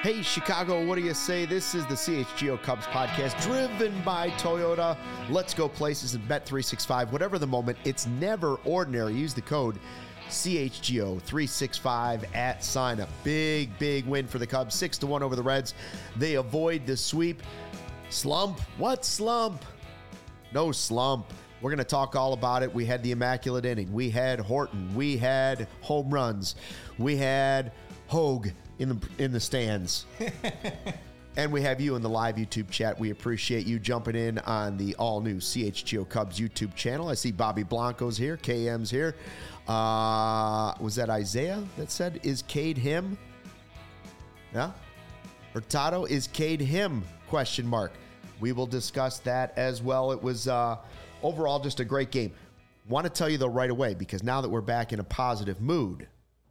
Hey, Chicago, what do you say? This is the CHGO Cubs podcast driven by Toyota. Let's go places and Bet365. Whatever the moment, it's never ordinary. Use the code CHGO365 at sign up. Big win for the Cubs. 6-1 over the Reds. They avoid the sweep. Slump? What slump? No slump. We're going to talk all about it. We had the immaculate inning. We had Horton. We had home runs. We had Hogue in the stands. And we have you in the live YouTube chat. We appreciate you jumping in on the all-new CHGO Cubs YouTube channel. I see Bobby Blanco's here. KM's here. Was that Isaiah that said, is Cade him? Yeah? Hurtado, is Cade him? Question mark. We will discuss that as well. It was overall just a great game. Want to tell you, though, right away, because now that we're back in a positive mood,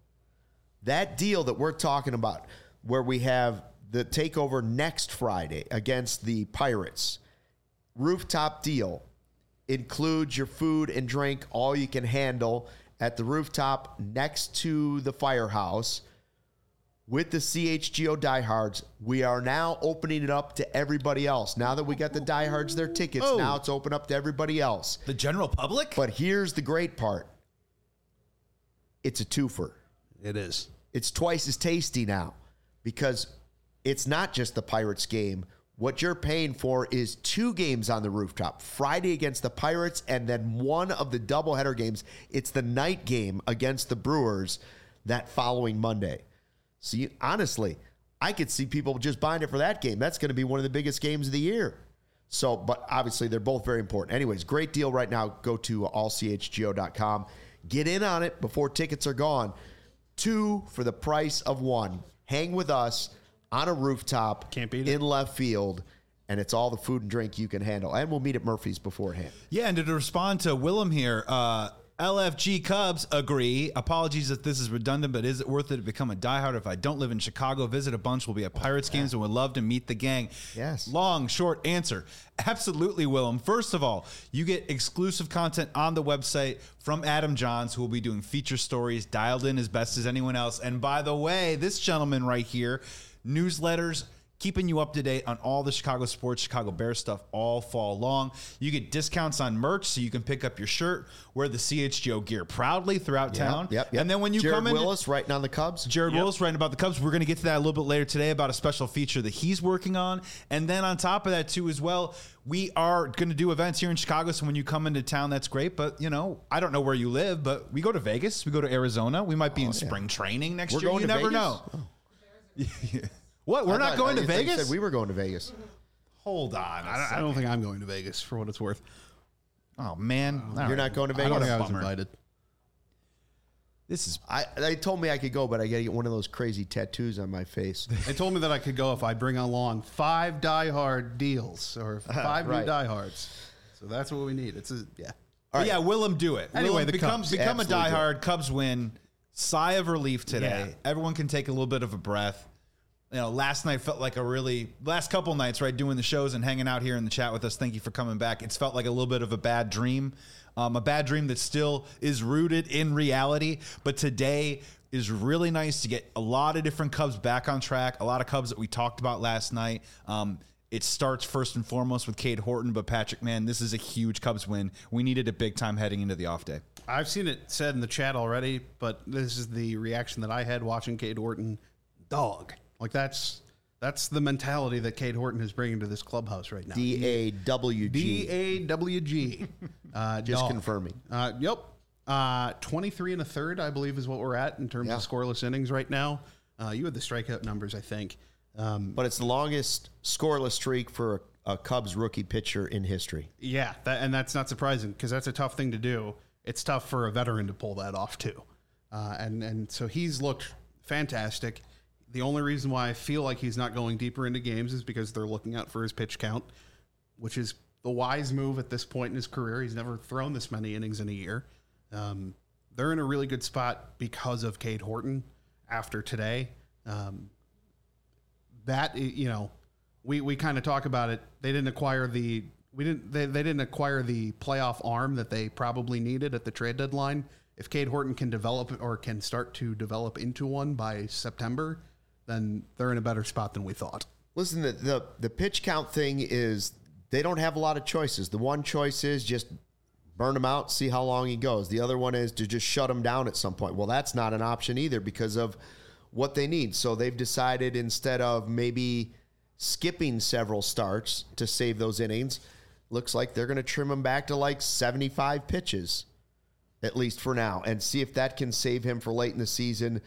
that deal that we're talking about, where we have the takeover next Friday against the Pirates, rooftop deal, includes your food and drink, all you can handle at the rooftop next to the firehouse. With the CHGO diehards, we are now opening it up to everybody else. Now that we got the diehards their tickets, now it's open up to everybody else. The general public? But here's the great part. It's a twofer. It is. It's twice as tasty now because it's not just the Pirates game. What you're paying for is 2 games on the rooftop, Friday against the Pirates, and then one of the doubleheader games. It's the night game against the Brewers that following Monday. So honestly, I could see people just buying it for that game. That's going to be one of the biggest games of the year. So, but obviously they're both very important. Anyways, great deal right now. Go to allchgo.com. Get in on it before tickets are gone. 2 for the price of 1. Hang with us on a rooftop. Can't beat it. In left field, and it's all the food and drink you can handle. And we'll meet at Murphy's beforehand. Yeah, and to respond to Willem here, LFG Cubs agree. Apologies if this is redundant, but is it worth it to become a diehard? If I don't live in Chicago, visit a bunch. We'll be at Pirates games and would love to meet the gang. Yes. Long, short answer. Absolutely, Willem. First of all, you get exclusive content on the website from Adam Johns, who will be doing feature stories, dialed in as best as anyone else. And by the way, this gentleman right here, newsletters, keeping you up to date on all the Chicago sports, Chicago Bears stuff all fall long. You get discounts on merch, so you can pick up your shirt, wear the CHGO gear proudly throughout town. Yep. And then when you Jared come in, Willis writing on the Cubs. Willis writing about the Cubs. We're going to get to that a little bit later today about a special feature that he's working on. And then on top of that, too, as well, we are going to do events here in Chicago. So when you come into town, that's great. But, you know, I don't know where you live, but we go to Vegas. We go to Arizona. We might be in spring training next year. You never know. What? We're not going to Vegas? Said we were going to Vegas. Hold on. I don't think I'm going to Vegas for what it's worth. Oh, man. You're not going to Vegas? I don't think I was Bummer. invited. This is... They told me I could go, but I got to get one of those crazy tattoos on my face. They told me that I could go if I bring along 5 diehard deals or 5 Right. new diehards. So that's what we need. It's All right. Yeah, Willem, do it. Anyway, Willem, the become Cubs. a Absolutely do diehard. Cubs win. Sigh of relief today. Yeah. Everyone can take a little bit of a breath. You know, last night felt like last couple nights, right, doing the shows and hanging out here in the chat with us. Thank you for coming back. It's felt like a little bit of a bad dream that still is rooted in reality. But today is really nice to get a lot of different Cubs back on track, a lot of Cubs that we talked about last night. It starts first and foremost with Cade Horton, but Patrick, man, this is a huge Cubs win. We needed it big time heading into the off day. I've seen it said in the chat already, but this is the reaction that I had watching Cade Horton. Dog. Like that's the mentality that Cade Horton is bringing to this clubhouse right now. DAWG. DAWG. Just dog. confirming. Yep. 23 and a third, I believe, is what we're at in terms of scoreless innings right now. You had the strikeout numbers, I think. But it's the longest scoreless streak for a Cubs rookie pitcher in history. Yeah, and that's not surprising because that's a tough thing to do. It's tough for a veteran to pull that off too. And so he's looked fantastic. The only reason why I feel like he's not going deeper into games is because they're looking out for his pitch count, which is the wise move at this point in his career. He's never thrown this many innings in a year. They're in a really good spot because of Cade Horton after today. That, you know, we kind of talk about it. They didn't acquire they didn't acquire the playoff arm that they probably needed at the trade deadline. If Cade Horton can develop or can start to develop into one by September, then they're in a better spot than we thought. Listen, the pitch count thing is they don't have a lot of choices. The one choice is just burn him out, see how long he goes. The other one is to just shut him down at some point. Well, that's not an option either because of what they need. So they've decided instead of maybe skipping several starts to save those innings, looks like they're going to trim him back to like 75 pitches, at least for now, and see if that can save him for late in the season.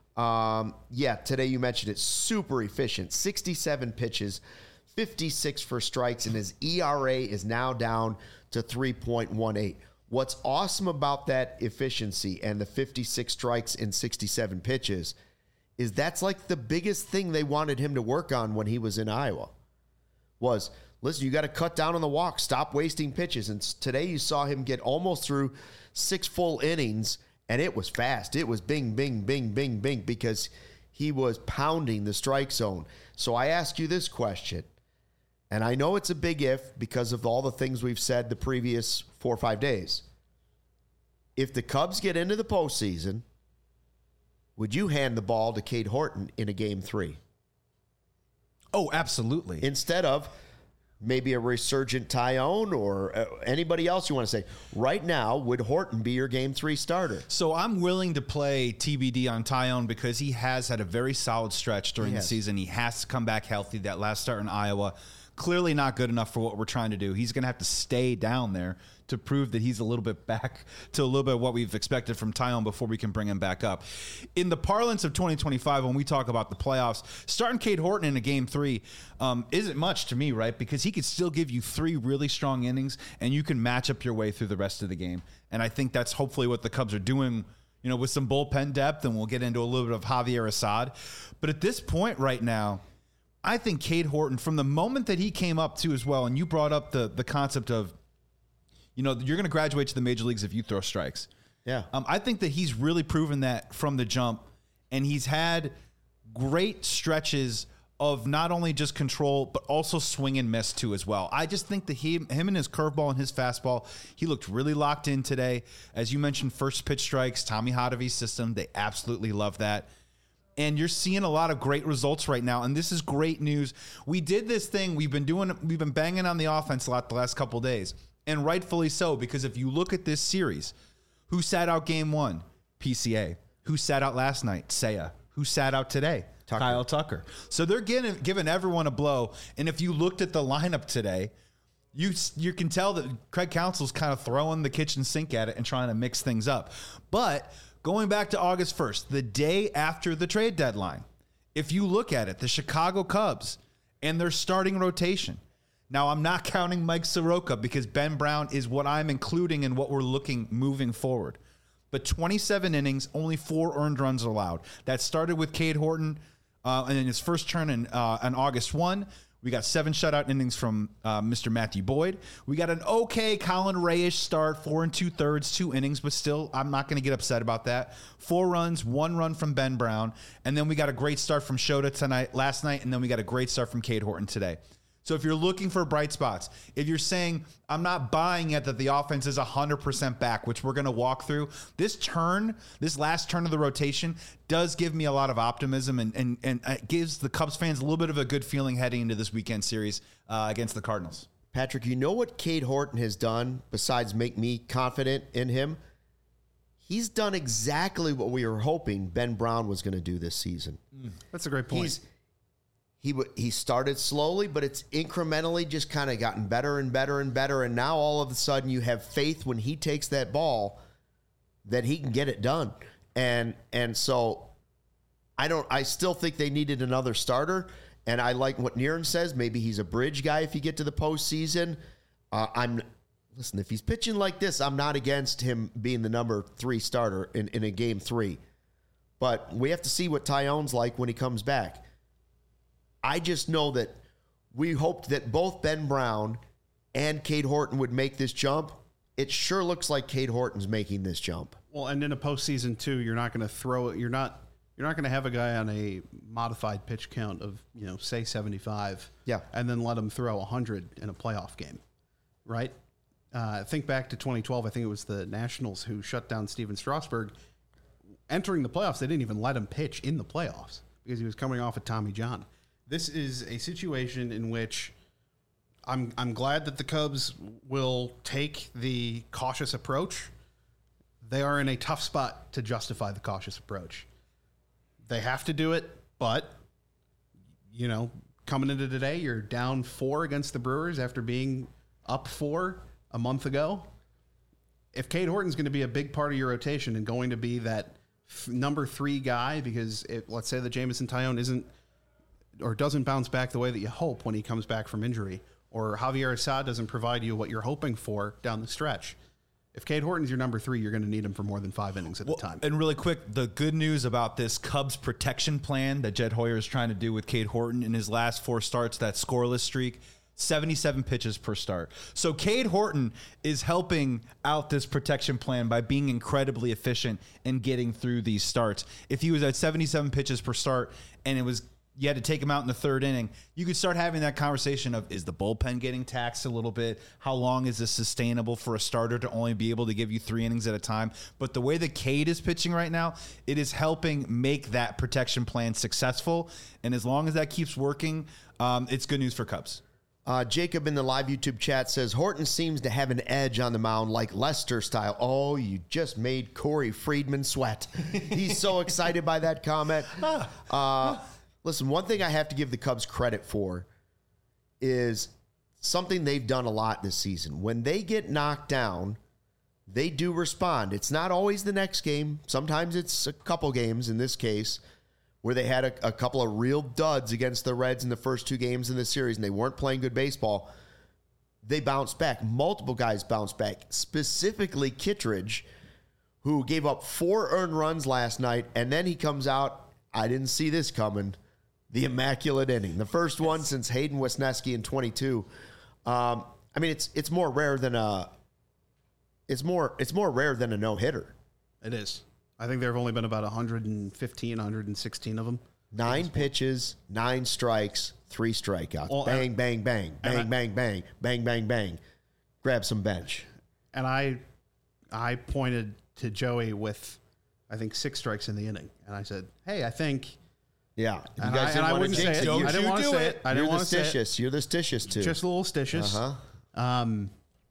Today you mentioned it, super efficient, 67 pitches, 56 for strikes, and his ERA is now down to 3.18. What's awesome about that efficiency and the 56 strikes in 67 pitches is that's like the biggest thing they wanted him to work on when he was in Iowa was, listen, you got to cut down on the walk, stop wasting pitches. And today you saw him get almost through 6 full innings, and it was fast. It was bing, bing, bing, bing, bing, because he was pounding the strike zone. So I ask you this question, and I know it's a big if because of all the things we've said the previous 4 or 5 days. If the Cubs get into the postseason, would you hand the ball to Cade Horton in a game 3? Oh, absolutely. Instead of maybe a resurgent Tyone or anybody else you want to say. Right now, would Horton be your game 3 starter? So I'm willing to play TBD on Tyone because he has had a very solid stretch during the season. He has to come back healthy. That last start in Iowa, clearly not good enough for what we're trying to do. He's going to have to stay down there to prove that he's a little bit back to a little bit of what we've expected from Tyone before we can bring him back up. In the parlance of 2025, when we talk about the playoffs, starting Cade Horton in a game 3 isn't much to me, right? Because he could still give you 3 really strong innings, and you can match up your way through the rest of the game. And I think that's hopefully what the Cubs are doing, you know, with some bullpen depth, and we'll get into a little bit of Javier Assad. But at this point right now, I think Cade Horton, from the moment that he came up too as well, and you brought up the concept of, you know, you're going to graduate to the major leagues if you throw strikes. Yeah. I think that he's really proven that from the jump, and he's had great stretches of not only just control, but also swing and miss too as well. I just think that him and his curveball and his fastball, he looked really locked in today. As you mentioned, first pitch strikes, Tommy Hotovy's system, they absolutely love that. And you're seeing a lot of great results right now, and this is great news. We did this thing, we've been banging on the offense a lot the last couple of days. And rightfully so, because if you look at this series, who sat out game 1? PCA. Who sat out last night? Seiya. Who sat out today? Tucker. Kyle Tucker. So they're giving everyone a blow. And if you looked at the lineup today, you can tell that Craig Counsell's kind of throwing the kitchen sink at it and trying to mix things up. But going back to August 1st, the day after the trade deadline, if you look at it, the Chicago Cubs and their starting rotation. Now, I'm not counting Mike Soroka because Ben Brown is what I'm including in what we're looking moving forward. But 27 innings, only 4 earned runs allowed. That started with Cade Horton and in his first turn on August 1. We got 7 shutout innings from Mr. Matthew Boyd. We got an okay Colin Ray-ish start, 4 2/3, 2 innings, but still, I'm not going to get upset about that. 4 runs, 1 run from Ben Brown, and then we got a great start from Shota last night, and then we got a great start from Cade Horton today. So if you're looking for bright spots, if you're saying, I'm not buying it that the offense is 100% back, which we're going to walk through, this last turn of the rotation does give me a lot of optimism and it gives the Cubs fans a little bit of a good feeling heading into this weekend series against the Cardinals. Patrick, you know what Cade Horton has done besides make me confident in him? He's done exactly what we were hoping Ben Brown was going to do this season. That's a great point. He started slowly, but it's incrementally just kind of gotten better and better and better. And now all of a sudden you have faith when he takes that ball that he can get it done. And so I still think they needed another starter. And I like what Niren says. Maybe he's a bridge guy if you get to the postseason. Listen, if he's pitching like this, I'm not against him being the number 3 starter in a game 3. But we have to see what Tyone's like when he comes back. I just know that we hoped that both Ben Brown and Cade Horton would make this jump. It sure looks like Cade Horton's making this jump. Well, and in a postseason too, you're not going to throw it. You're not going to have a guy on a modified pitch count of say 75. Yeah, and then let him throw 100 in a playoff game, right? Think back to 2012. I think it was the Nationals who shut down Steven Strasburg. Entering the playoffs, they didn't even let him pitch in the playoffs because he was coming off of Tommy John. This is a situation in which I'm glad that the Cubs will take the cautious approach. They are in a tough spot to justify the cautious approach. They have to do it, but, you know, coming into today, you're down 4 against the Brewers after being up 4 a month ago. If Cade Horton's going to be a big part of your rotation and going to be that number 3 guy, because let's say that Jameson Taillon isn't or doesn't bounce back the way that you hope when he comes back from injury, or Javier Assad doesn't provide you what you're hoping for down the stretch. If Cade Horton's your number 3, you're going to need him for more than 5 innings at a time. And really quick, the good news about this Cubs protection plan that Jed Hoyer is trying to do with Cade Horton in his last 4 starts, that scoreless streak, 77 pitches per start. So Cade Horton is helping out this protection plan by being incredibly efficient and getting through these starts. If he was at 77 pitches per start and you had to take him out in the 3rd inning, you could start having that conversation of, is the bullpen getting taxed a little bit? How long is this sustainable for a starter to only be able to give you 3 innings at a time? But the way that Cade is pitching right now, it is helping make that protection plan successful. And as long as that keeps working, it's good news for Cubs. Jacob in the live YouTube chat says, Horton seems to have an edge on the mound like Lester style. Oh, you just made Corey Friedman sweat. He's so excited by that comment. Listen, one thing I have to give the Cubs credit for is something they've done a lot this season. When they get knocked down, they do respond. It's not always the next game. Sometimes it's a couple games, in this case, where they had a couple of real duds against the Reds in the first 2 games in the series, and they weren't playing good baseball. They bounced back. Multiple guys bounced back, specifically Kittredge, who gave up 4 earned runs last night, and then he comes out, I didn't see this coming, the immaculate inning. The first one since Hayden Wesneski in 22. I mean, it's more rare than a no-hitter. It is. I think there have only been about 115, 116 of them. 9 pitches, 9 strikes, 3 strikeouts. Well, bang, bang, bang, bang, bang, bang, bang, bang, bang. Grab some bench. And I pointed to Joey with, I think, 6 strikes in the inning. And I said, hey, I think... Yeah. And I wouldn't say it. I didn't want to say it. I didn't want to say it. You're the stitious, too. Just a little stitious. Uh-huh.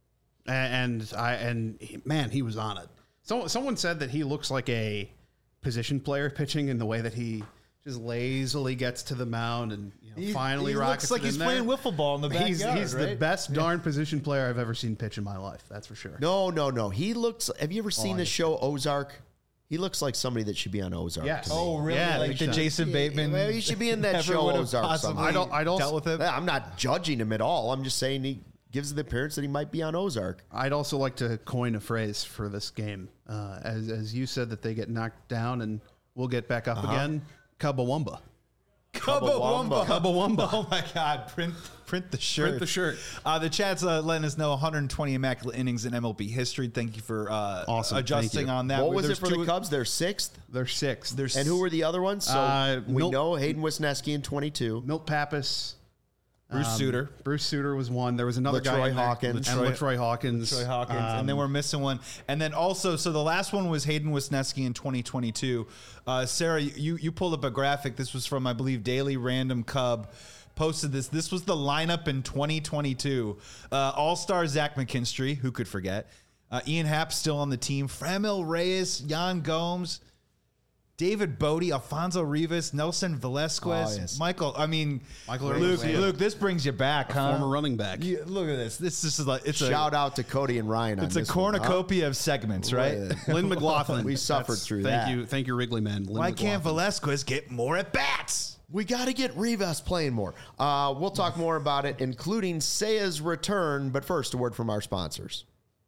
Man, he was on it. Someone said that he looks like a position player pitching in the way that he just lazily gets to the mound and finally rockets it in there. Looks like he's playing wiffle ball in the backyard. He's right? the best darn position player I've ever seen pitch in my life. That's for sure. No. He looks. Have you ever seen the show Ozark? He looks like somebody that should be on Ozark. Yes. To me. Oh, really? Yeah, like the Jason Bateman. Well, he should be in that never show would have Ozark. possibly Somehow. I'd also dealt with it. I'm not judging him at all. I'm just saying he gives the appearance that he might be on Ozark. I'd also like to coin a phrase for this game. As you said that they get knocked down and we'll get back up again. Cubawamba. Cubawamba. Oh my God! Print the shirt. Print the shirt. The chat's letting us know 120 immaculate innings in MLB history. Thank you for awesome. adjusting on that. What was it for the Cubs? They're 6th? They're 6th. And who were the other ones? So we Milt- know Hayden Wisniewski in 22. Milt Pappas. Bruce Sutter. Bruce Sutter was one. There was another guy LaTroy in there. Hawkins. And LaTroy Hawkins. Troy Hawkins, and then we're missing one. And then also, so the last one was Hayden Wesneski in 2022. Sarah, you pulled up a graphic. This was from, I believe, Daily Random Cub. Posted this. This was the lineup in 2022. All-star Zach McKinstry, who could forget? Ian Happ still on the team. Framil Reyes, Yan Gomes, David Bodie, Alfonso Rivas, Nelson Velasquez, yes. Michael Luke, this brings you back, huh? former running back. Look at this. This is like Shout out to Cody and Ryan on It's a this one, huh? cornucopia of segments, right? Lynn McLaughlin. We suffered through that. Thank you, Wrigley man. Lynn Why can't McLaughlin. Velasquez get more at bats? We got to get Rivas playing more. We'll talk more about it, including Seiya's return. But first, a word from our sponsors.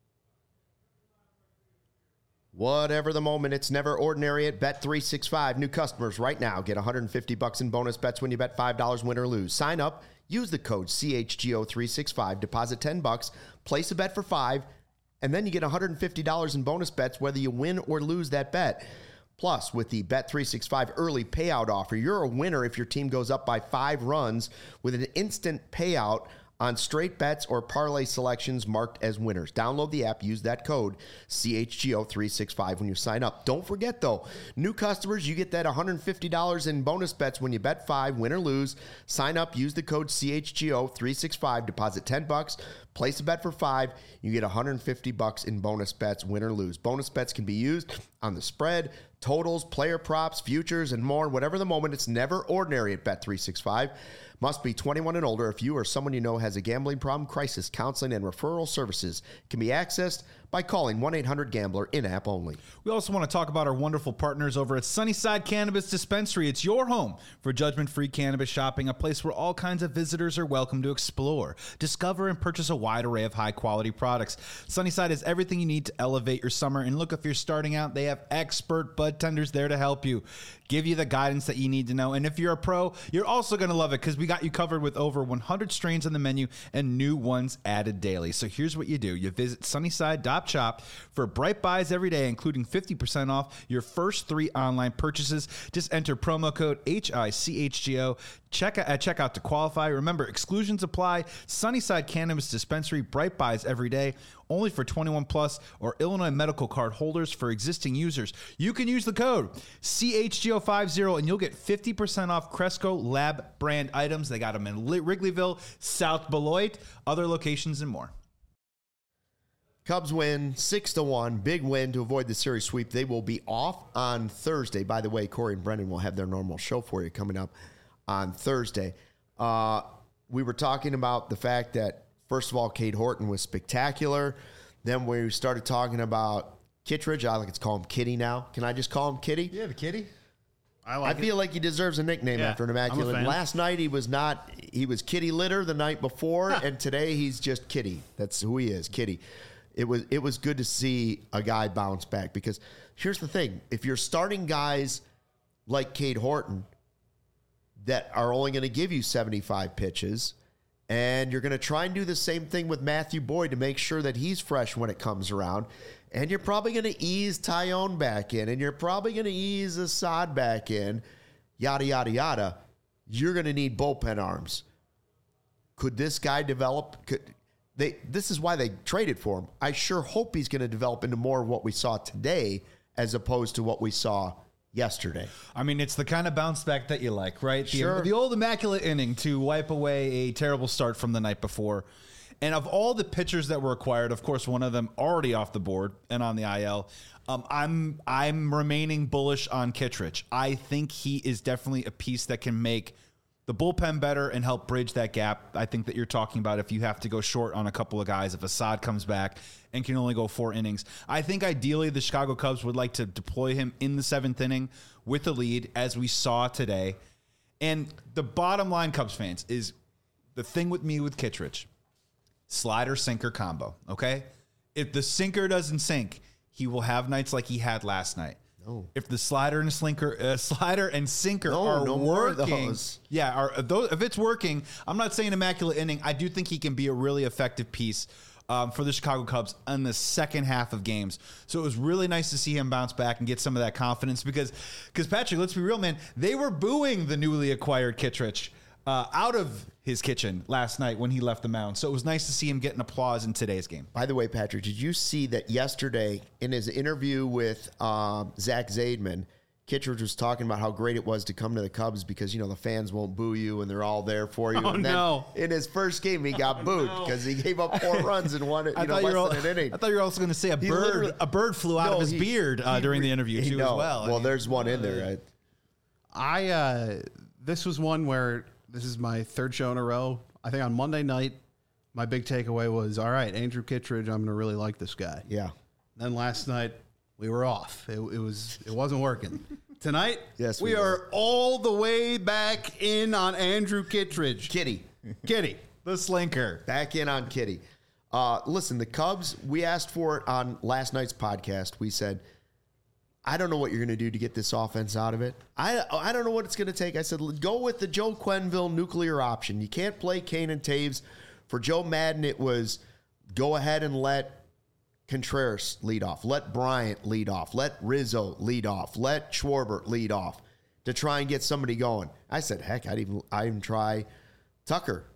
Whatever the moment, it's never ordinary at Bet365. New customers right now get $150 in bonus bets when you bet $5 win or lose. Sign up, use the code CHGO365, deposit $10, place a bet for $5, and then you get $150 in bonus bets whether you win or lose that bet. Plus, with the Bet365 early payout offer, you're a winner if your team goes up by 5 runs with an instant payout on straight bets or parlay selections marked as winners. Download the app, use that code CHGO365 when you sign up. Don't forget, though, new customers, you get that $150 in bonus bets when you bet 5, win or lose. Sign up, use the code CHGO365, deposit $10, place a bet for 5, you get $150 in bonus bets, win or lose. Bonus bets can be used on the spread, totals, player props, futures, and more. Whatever the moment, it's never ordinary at Bet365. Must be 21 and older. If you or someone you know has a gambling problem, crisis counseling and referral services can be accessed by calling 1-800-GAMBLER in-app only. We also want to talk about our wonderful partners over at Sunnyside Cannabis Dispensary. It's your home for judgment-free cannabis shopping, a place where all kinds of visitors are welcome to explore, discover, and purchase a wide array of high-quality products. Sunnyside has everything you need to elevate your summer. And look, if you're starting out, they have expert bud tenders there to help you, give you the guidance that you need to know. And if you're a pro, you're also going to love it because we got you covered with over 100 strains on the menu and new ones added daily. So here's what you do. You visit Sunnyside.shop for bright buys every day, including 50% off your first 3 online purchases. Just enter promo code HICHGO at checkout to qualify. Remember, exclusions apply. Sunnyside Cannabis Dispensary, bright buys every day, only for 21 plus or Illinois medical card holders. For existing users, you can use the code CHGO50 and you'll get 50% off Cresco Lab brand items. They got them in Wrigleyville, South Beloit, other locations, and more. Cubs win 6-1, big win to avoid the series sweep. They will be off on Thursday. By the way, Corey and Brendan will have their normal show for you coming up on Thursday. We were talking about the fact that, first of all, Cade Horton was spectacular. Then we started talking about Kittredge. I like to call him Kitty now. Can I just call him Kitty? Yeah, the Kitty. I feel like he deserves a nickname after an immaculate. Last night he was not. He was Kitty Litter the night before, and today he's just Kitty. That's who he is, Kitty. It was good to see a guy bounce back because here's the thing. If you're starting guys like Cade Horton that are only going to give you 75 pitches and you're going to try and do the same thing with Matthew Boyd to make sure that he's fresh when it comes around, and you're probably going to ease Tyone back in and you're probably going to ease Assad back in, yada, yada, yada, you're going to need bullpen arms. Could this guy develop? This is why they traded for him. I sure hope he's going to develop into more of what we saw today as opposed to what we saw yesterday. I mean, it's the kind of bounce back that you like, right? Sure. The old immaculate inning to wipe away a terrible start from the night before. And of all the pitchers that were acquired, of course, one of them already off the board and on the IL. I'm remaining bullish on Kittredge. I think he is definitely a piece that can make the bullpen better and help bridge that gap. I think that you're talking about if you have to go short on a couple of guys, if Assad comes back and can only go 4 innings. I think ideally the Chicago Cubs would like to deploy him in the 7th inning with the lead, as we saw today. And the bottom line, Cubs fans, is the thing with me with Kittredge, slider-sinker combo, okay? If the sinker doesn't sink, he will have nights like he had last night. No. If the slider and sinker are working, if it's working, I'm not saying immaculate inning. I do think he can be a really effective piece for the Chicago Cubs in the second half of games. So it was really nice to see him bounce back and get some of that confidence because Patrick, let's be real, man, they were booing the newly acquired Kittredge out of his kitchen last night when he left the mound. So it was nice to see him getting applause in today's game. By the way, Patrick, did you see that yesterday in his interview with Zach Zaidman, Kittredge was talking about how great it was to come to the Cubs because, you know, the fans won't boo you and they're all there for you. And then in his first game, he got booed because he gave up 4 runs and won it, less than an inning. I thought you were also going to say a bird flew out of his beard during the interview too as well. Well, there's one in there. Right? This was one where this is my 3rd show in a row. I think on Monday night, my big takeaway was, all right, Andrew Kittredge, I'm going to really like this guy. Yeah. Then last night, we were off. It wasn't working. Tonight, yes, we are all the way back in on Andrew Kittredge. Kitty. The slinker. Back in on Kitty. Listen, the Cubs, we asked for it on last night's podcast. We said, I don't know what you're going to do to get this offense out of it. I don't know what it's going to take. I said, go with the Joe Quenneville nuclear option. You can't play Kane and Taves. For Joe Madden, it was go ahead and let Contreras lead off. Let Bryant lead off. Let Rizzo lead off. Let Schwarber lead off to try and get somebody going. I said, heck, I'd even try Tucker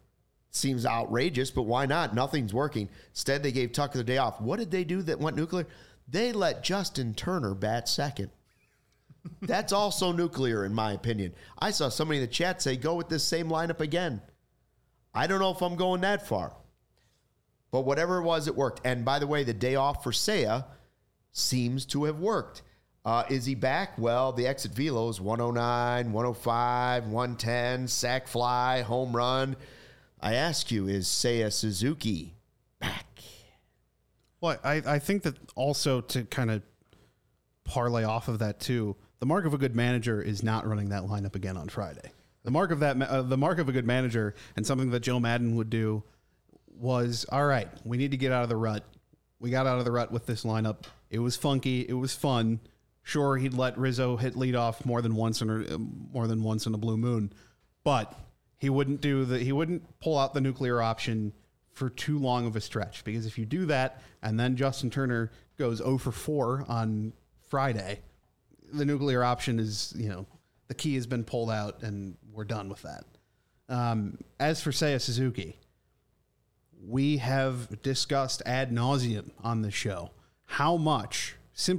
Seems outrageous, but why not? Nothing's working. Instead, they gave Tucker the day off. What did they do that went nuclear? They let Justin Turner bat second. That's also nuclear, in my opinion. I saw somebody in the chat say, go with this same lineup again. I don't know if I'm going that far. But whatever it was, it worked. And by the way, the day off for Seiya seems to have worked. Is he back? Well, the exit velo is 109, 105, 110, sack fly, home run. I ask you, is Seiya Suzuki back? Well, I think that also to kind of parlay off of that too, the mark of a good manager is not running that lineup again on Friday. The mark of a good manager, and something that Joe Madden would do, was, all right, we need to get out of the rut. We got out of the rut with this lineup. It was funky. It was fun. Sure, he'd let Rizzo hit leadoff more than once in a blue moon, but he wouldn't pull out the nuclear option for too long of a stretch, because if you do that and then Justin Turner goes 0 for 4 on Friday, the nuclear option is, the key has been pulled out and we're done with that. As for Seiya Suzuki, we have discussed ad nauseum on this show how much,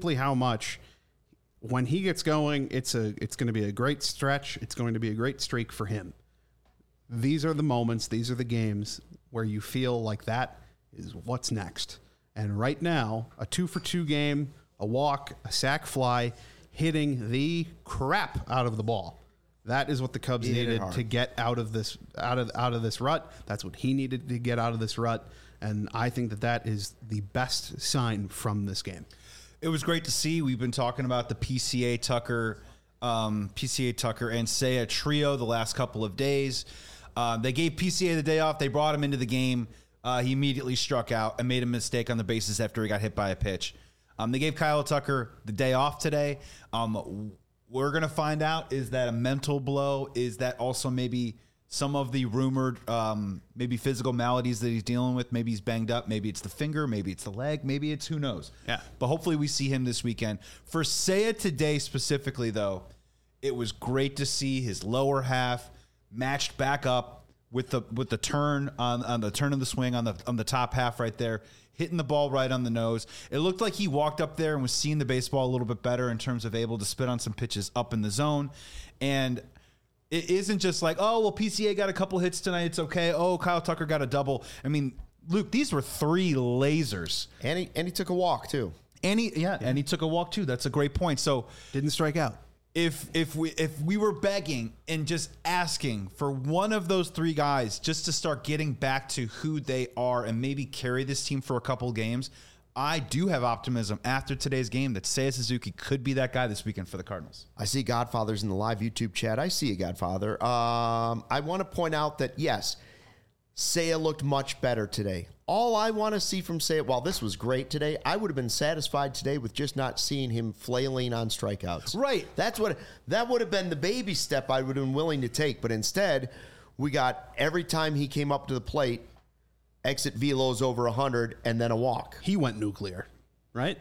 when he gets going, it's going to be a great stretch. It's going to be a great streak for him. These are the moments, these are the games where you feel like that is what's next. And right now, a 2-for-2 game, a walk, a sack fly, hitting the crap out of the ball. That is what the Cubs needed to get out of this rut. That's what he needed to get out of this rut. And I think that is the best sign from this game. It was great to see. We've been talking about the PCA Tucker and Seiya trio the last couple of days. They gave PCA the day off. They brought him into the game. He immediately struck out and made a mistake on the bases after he got hit by a pitch. They gave Kyle Tucker the day off today. We're going to find out, is that a mental blow? Is that also maybe some of the rumored maybe physical maladies that he's dealing with? Maybe he's banged up. Maybe it's the finger. Maybe it's the leg. Maybe it's who knows. Yeah. But hopefully we see him this weekend. For Seiya today specifically, though, it was great to see his lower half matched back up with the turn on the turn of the swing on the top half right there, hitting the ball right on the nose. It looked like he walked up there and was seeing the baseball a little bit better in terms of able to spit on some pitches up in the zone. And it isn't just like, oh, well, PCA got a couple hits tonight, it's okay. Oh, Kyle Tucker got a double. I mean, Luke, these were 3 lasers. And he took a walk too. And he took a walk too. That's a great point. So didn't strike out. If we were begging and just asking for one of those 3 guys just to start getting back to who they are and maybe carry this team for a couple games, I do have optimism after today's game that Seiya Suzuki could be that guy this weekend for the Cardinals. I see Godfather's in the live YouTube chat. I see you, Godfather. I want to point out that, yes, Seiya looked much better today. All I want to see from Seiya, while this was great today, I would have been satisfied today with just not seeing him flailing on strikeouts. Right. That would have been the baby step I would have been willing to take. But instead, we got every time he came up to the plate, exit velos over 100 and then a walk. He went nuclear, right?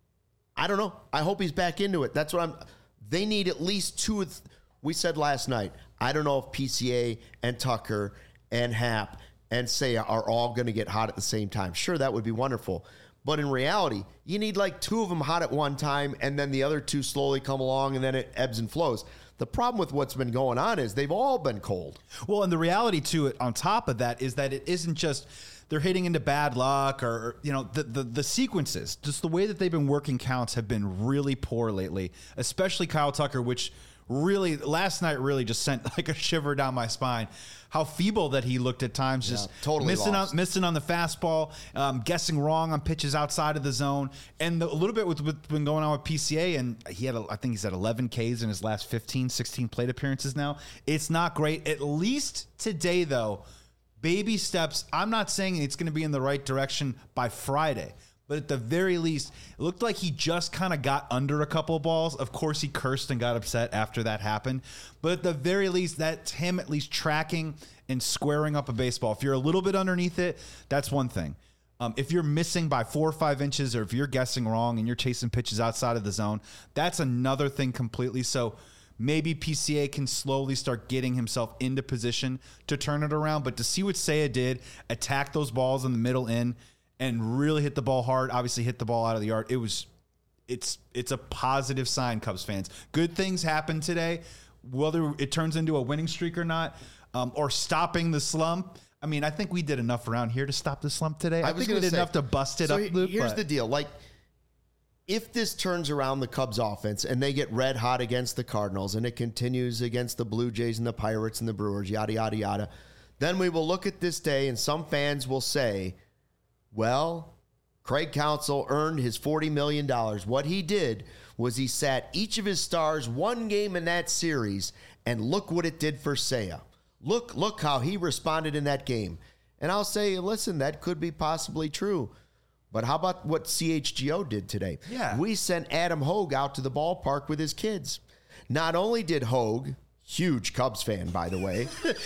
I don't know. I hope he's back into it. That's what they need at least 2. We said last night, I don't know if PCA and Tucker and Happ and Seiya are all going to get hot at the same time. Sure, that would be wonderful. But in reality, you need like 2 of them hot at one time, and then the other 2 slowly come along, and then it ebbs and flows. The problem with what's been going on is they've all been cold. Well, and the reality to it on top of that is that it isn't just they're hitting into bad luck or the sequences. Just the way that they've been working counts have been really poor lately, especially Kyle Tucker, which really last night really just sent like a shiver down my spine. How feeble that he looked at times, just totally missing on the fastball, guessing wrong on pitches outside of the zone, and a little bit with what's been going on with PCA. And I think he's at 11 Ks in his last 15, 16 plate appearances now. It's not great. At least today, though, baby steps. I'm not saying it's going to be in the right direction by Friday. But at the very least, it looked like he just kind of got under a couple of balls. Of course, he cursed and got upset after that happened. But at the very least, that's him at least tracking and squaring up a baseball. If you're a little bit underneath it, that's one thing. If you're missing by 4 or 5 inches, or if you're guessing wrong and you're chasing pitches outside of the zone, that's another thing completely. So maybe PCA can slowly start getting himself into position to turn it around. But to see what Seiya did, attack those balls in the middle in and really hit the ball hard, obviously hit the ball out of the yard. It's a positive sign, Cubs fans. Good things happen today, whether it turns into a winning streak or not, or stopping the slump. I mean, I think we did enough around here to stop the slump today. I think we did enough to bust it up, Luke. Here's the deal. Like, if this turns around the Cubs offense and they get red hot against the Cardinals and it continues against the Blue Jays and the Pirates and the Brewers, yada, yada, yada, then we will look at this day and some fans will say, well, Craig Counsell earned his $40 million. What he did was he sat each of his stars one game in that series, and look what it did for Seiya. Look how he responded in that game. And I'll say, listen, that could be possibly true. But how about what CHGO did today? Yeah. We sent Adam Hogue out to the ballpark with his kids. Not only did Hogue, huge Cubs fan, by the way.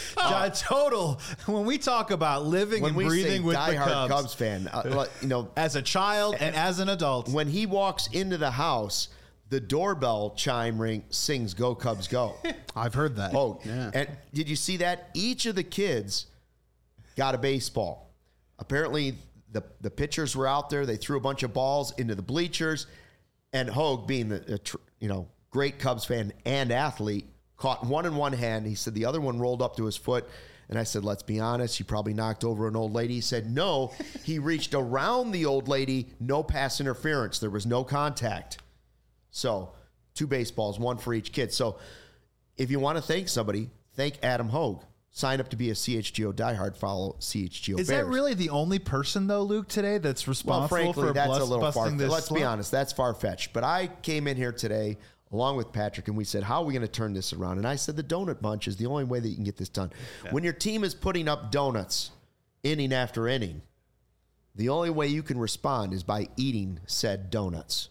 Total. When we talk about living and breathing with the Cubs fan, as a child and as an adult, when he walks into the house, the doorbell chime sings "Go Cubs Go." I've heard that. Oh, yeah. And did you see that? Each of the kids got a baseball. Apparently, the pitchers were out there. They threw a bunch of balls into the bleachers, and Hogue, being the great Cubs fan and athlete, caught one in one hand. He said the other one rolled up to his foot. And I said, let's be honest, he probably knocked over an old lady. He said, no, he reached around the old lady, no pass interference. There was no contact. So 2 baseballs, 1 for each kid. So if you want to thank somebody, thank Adam Hogue. Sign up to be a CHGO diehard, follow CHGO Is Bears. that really the only person, though, Luke, today that's responsible for that's a little busting this Let's slump? be honest, that's far-fetched. But I came in here today along with Patrick, and we said, how are we going to turn this around? And I said, the donut bunch is the only way that you can get this done. Yeah. When your team is putting up donuts inning after inning, the only way you can respond is by eating said donuts.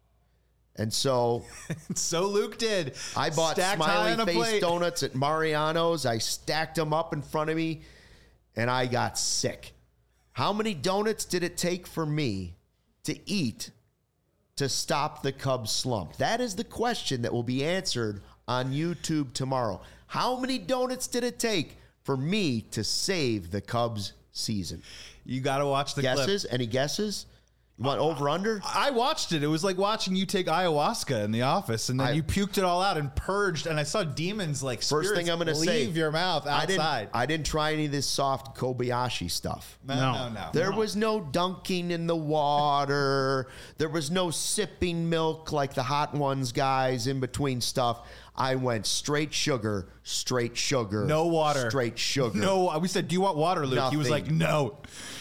And so Luke did. I bought smiley face donuts at Mariano's. I stacked them up in front of me, and I got sick. How many donuts did it take for me to eat to stop the Cubs slump? That is the question that will be answered on YouTube tomorrow. How many donuts did it take for me to save the Cubs season? You got to watch the guesses. clip. Any guesses? You want over under? I watched it. It was like watching you take ayahuasca in the office, and then you puked it all out and purged. And I saw demons like first thing I'm going to say, leave your mouth outside. I didn't try any of this soft Kobayashi stuff. No. There was no dunking in the water. There was no sipping milk like the Hot Ones guys in between stuff. I went straight sugar. No water. Straight sugar. No, we said, do you want water, Luke? Nothing. He was like, no,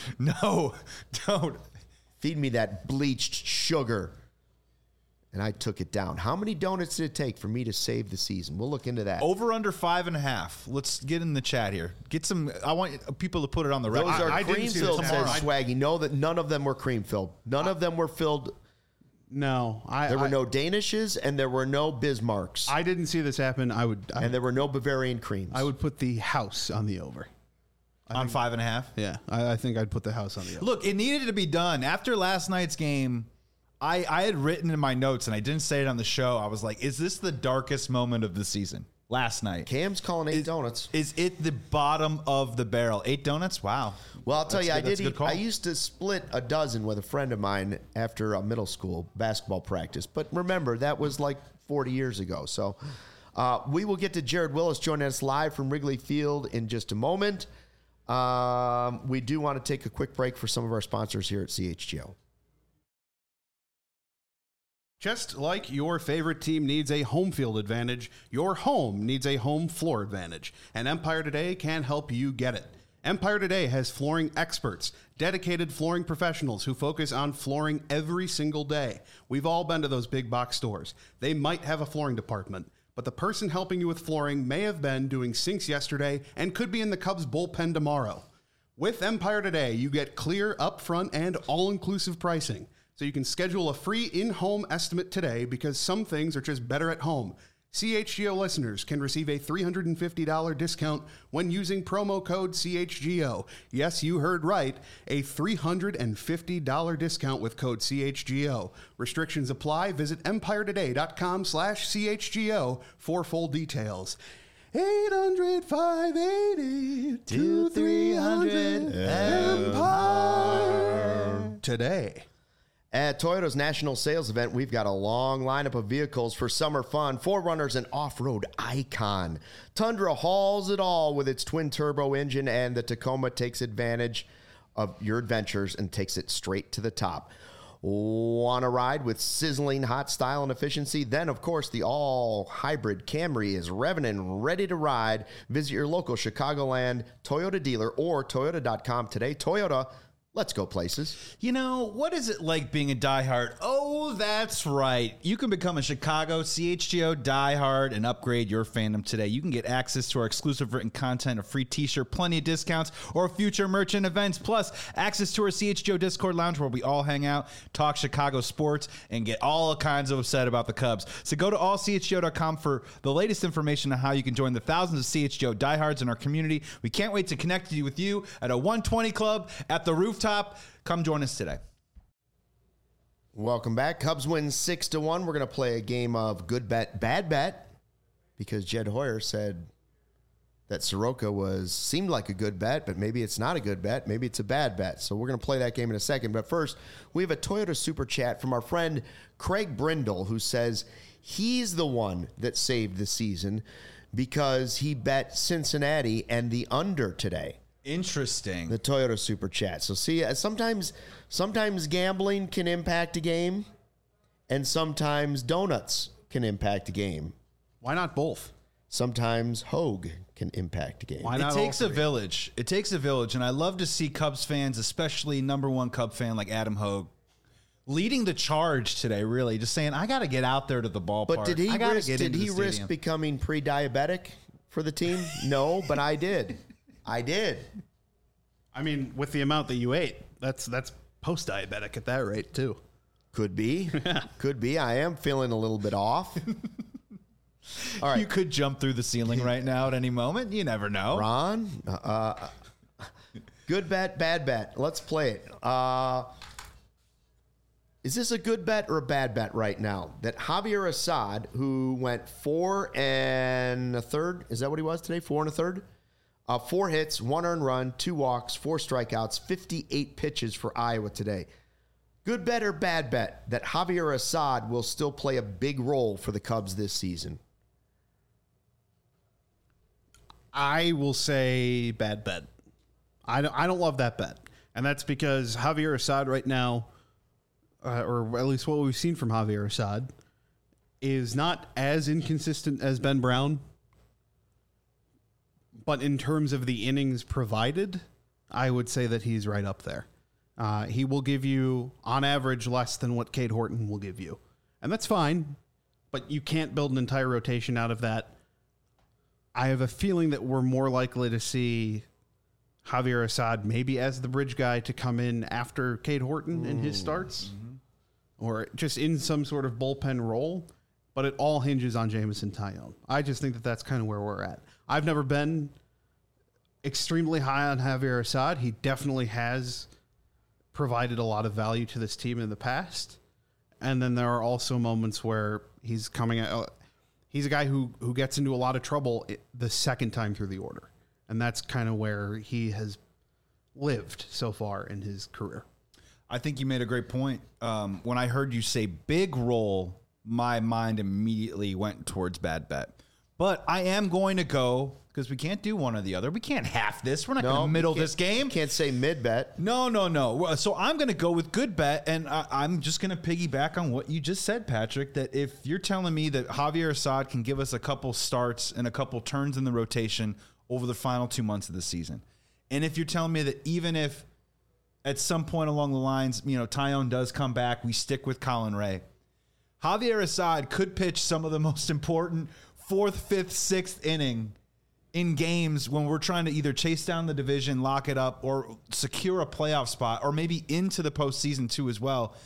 don't. Feed me that bleached sugar. And I took it down. How many donuts did it take for me to save the season? We'll look into that. Over under 5.5. Let's get in the chat here. Get some. I want people to put it on the record. Those are cream filled, says Swaggy. Know that none of them were cream filled. None of them were filled. No, there were no Danishes and there were no Bismarcks. I didn't see this happen. And there were no Bavarian creams. I would put the house on the over. On 5.5? Yeah, I think I'd put the house on the over. Look, it needed to be done. After last night's game, I had written in my notes, and I didn't say it on the show. I was like, is this the darkest moment of the season? Last night. Cam's calling 8 donuts. Is it the bottom of the barrel? 8 donuts? Wow. Well, I'll tell you, I used to split a dozen with a friend of mine after a middle school basketball practice. But remember, that was like 40 years ago. So we will get to Jared Willis joining us live from Wrigley Field in just a moment. We do want to take a quick break for some of our sponsors here at CHGO. Just like your favorite team needs a home field advantage, your home needs a home floor advantage, and Empire Today can help you get it. Empire Today has flooring experts, dedicated flooring professionals who focus on flooring every single day. We've all been to those big box stores. They might have a flooring department, but the person helping you with flooring may have been doing sinks yesterday and could be in the Cubs bullpen tomorrow. With Empire Today, you get clear, upfront, and all-inclusive pricing. So you can schedule a free in-home estimate today because some things are just better at home. CHGO listeners can receive a $350 discount when using promo code CHGO. Yes, you heard right. A $350 discount with code CHGO. Restrictions apply. Visit empiretoday.com/CHGO for full details. 800-580-2300 Empire Today. At Toyota's national sales event, we've got a long lineup of vehicles for summer fun. 4Runner's an off-road icon. Tundra hauls it all with its twin-turbo engine, and the Tacoma takes advantage of your adventures and takes it straight to the top. Want to ride with sizzling hot style and efficiency? Then, of course, the all-hybrid Camry is revving and ready to ride. Visit your local Chicagoland Toyota dealer or Toyota.com today. Toyota, let's go places. You know, what is it like being a diehard? Oh, that's right. You can become a Chicago CHGO diehard and upgrade your fandom today. You can get access to our exclusive written content, a free t-shirt, plenty of discounts, or future merchant events, plus access to our CHGO Discord lounge where we all hang out, talk Chicago sports, and get all kinds of upset about the Cubs. So go to allchgo.com for the latest information on how you can join the thousands of CHGO diehards in our community. We can't wait to connect with you at a 120 Club at the rooftop. Come join us today. Welcome back. Cubs win 6-1. We're going to play a game of good bet, bad bet, because Jed Hoyer said that Soroka seemed like a good bet, but maybe it's not a good bet. Maybe it's a bad bet. So we're going to play that game in a second. But first, we have a Toyota Super Chat from our friend Craig Brindle, who says he's the one that saved the season because he bet Cincinnati and the under today. Interesting. The Toyota Super Chat. So see, sometimes gambling can impact a game, and sometimes donuts can impact a game. Why not both? Sometimes Hogue can impact a game. Why not It takes a village. It takes a village, and I love to see Cubs fans, especially number one Cub fan like Adam Hogue, leading the charge today, really, just saying, I got to get out there to the ballpark. But did he risk becoming pre-diabetic for the team? No, but I did. I did. I mean, with the amount that you ate, that's post-diabetic at that rate, too. Could be. Could be. I am feeling a little bit off. All right. You could jump through the ceiling right now at any moment. You never know. Ron, good bet, bad bet. Let's play it. Is this a good bet or a bad bet right now? That Javier Assad, who went 4 1/3, is that what he was today? 4 1/3? 4 hits, 1 earned run, 2 walks, 4 strikeouts, 58 pitches for Iowa today. Good bet or bad bet that Javier Assad will still play a big role for the Cubs this season? I will say bad bet. I don't love that bet. And that's because Javier Assad right now, or at least what we've seen from Javier Assad, is not as inconsistent as Ben Brown. But in terms of the innings provided, I would say that he's right up there. He will give you, on average, less than what Cade Horton will give you. And that's fine, but you can't build an entire rotation out of that. I have a feeling that we're more likely to see Javier Assad maybe as the bridge guy to come in after Cade Horton in his starts, or just in some sort of bullpen role. But it all hinges on Jameson Taillon. I just think that that's kind of where we're at. I've never been extremely high on Javier Assad. He definitely has provided a lot of value to this team in the past. And then there are also moments where he's coming out. He's a guy who gets into a lot of trouble the second time through the order. And that's kind of where he has lived so far in his career. I think you made a great point. When I heard you say big role, my mind immediately went towards bad bet. But I am going to go, because we can't do one or the other. We can't half this. We're not going to middle this game. Can't say mid bet. No. So I'm going to go with good bet, and I'm just going to piggyback on what you just said, Patrick, that if you're telling me that Javier Assad can give us a couple starts and a couple turns in the rotation over the final 2 months of the season, and if you're telling me that even if at some point along the lines, Taillon does come back, we stick with Colin Ray, Javier Assad could pitch some of the most important 4th, 5th, 6th inning in games when we're trying to either chase down the division, lock it up, or secure a playoff spot, or maybe into the postseason too as well.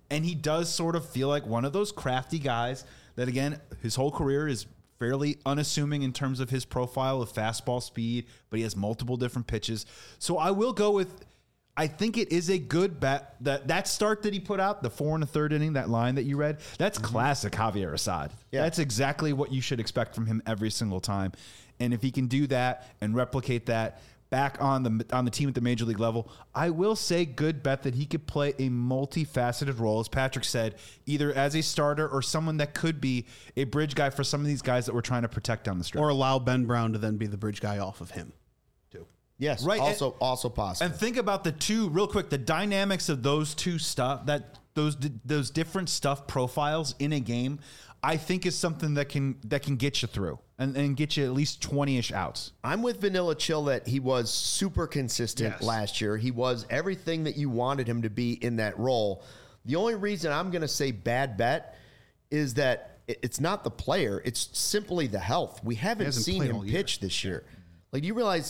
And he does sort of feel like one of those crafty guys that, again, his whole career is fairly unassuming in terms of his profile of fastball speed, but he has multiple different pitches. So I will go with, I think it is a good bet. That start that he put out, the 4 1/3 inning, that line that you read, that's classic Javier Assad. Yeah. That's exactly what you should expect from him every single time. And if he can do that and replicate that back on the team at the major league level, I will say good bet that he could play a multifaceted role, as Patrick said, either as a starter or someone that could be a bridge guy for some of these guys that we're trying to protect down the stretch. Or allow Ben Brown to then be the bridge guy off of him, too. Yes, Right, also possible. And think about the two, real quick, the dynamics of those two those different stuff profiles in a game, I think is something that can get you through and get you at least 20-ish outs. I'm with Vanilla Chill that he was super consistent last year. He was everything that you wanted him to be in that role. The only reason I'm going to say bad bet is that it's not the player. It's simply the health. We haven't seen him pitch this year. Like, do you realize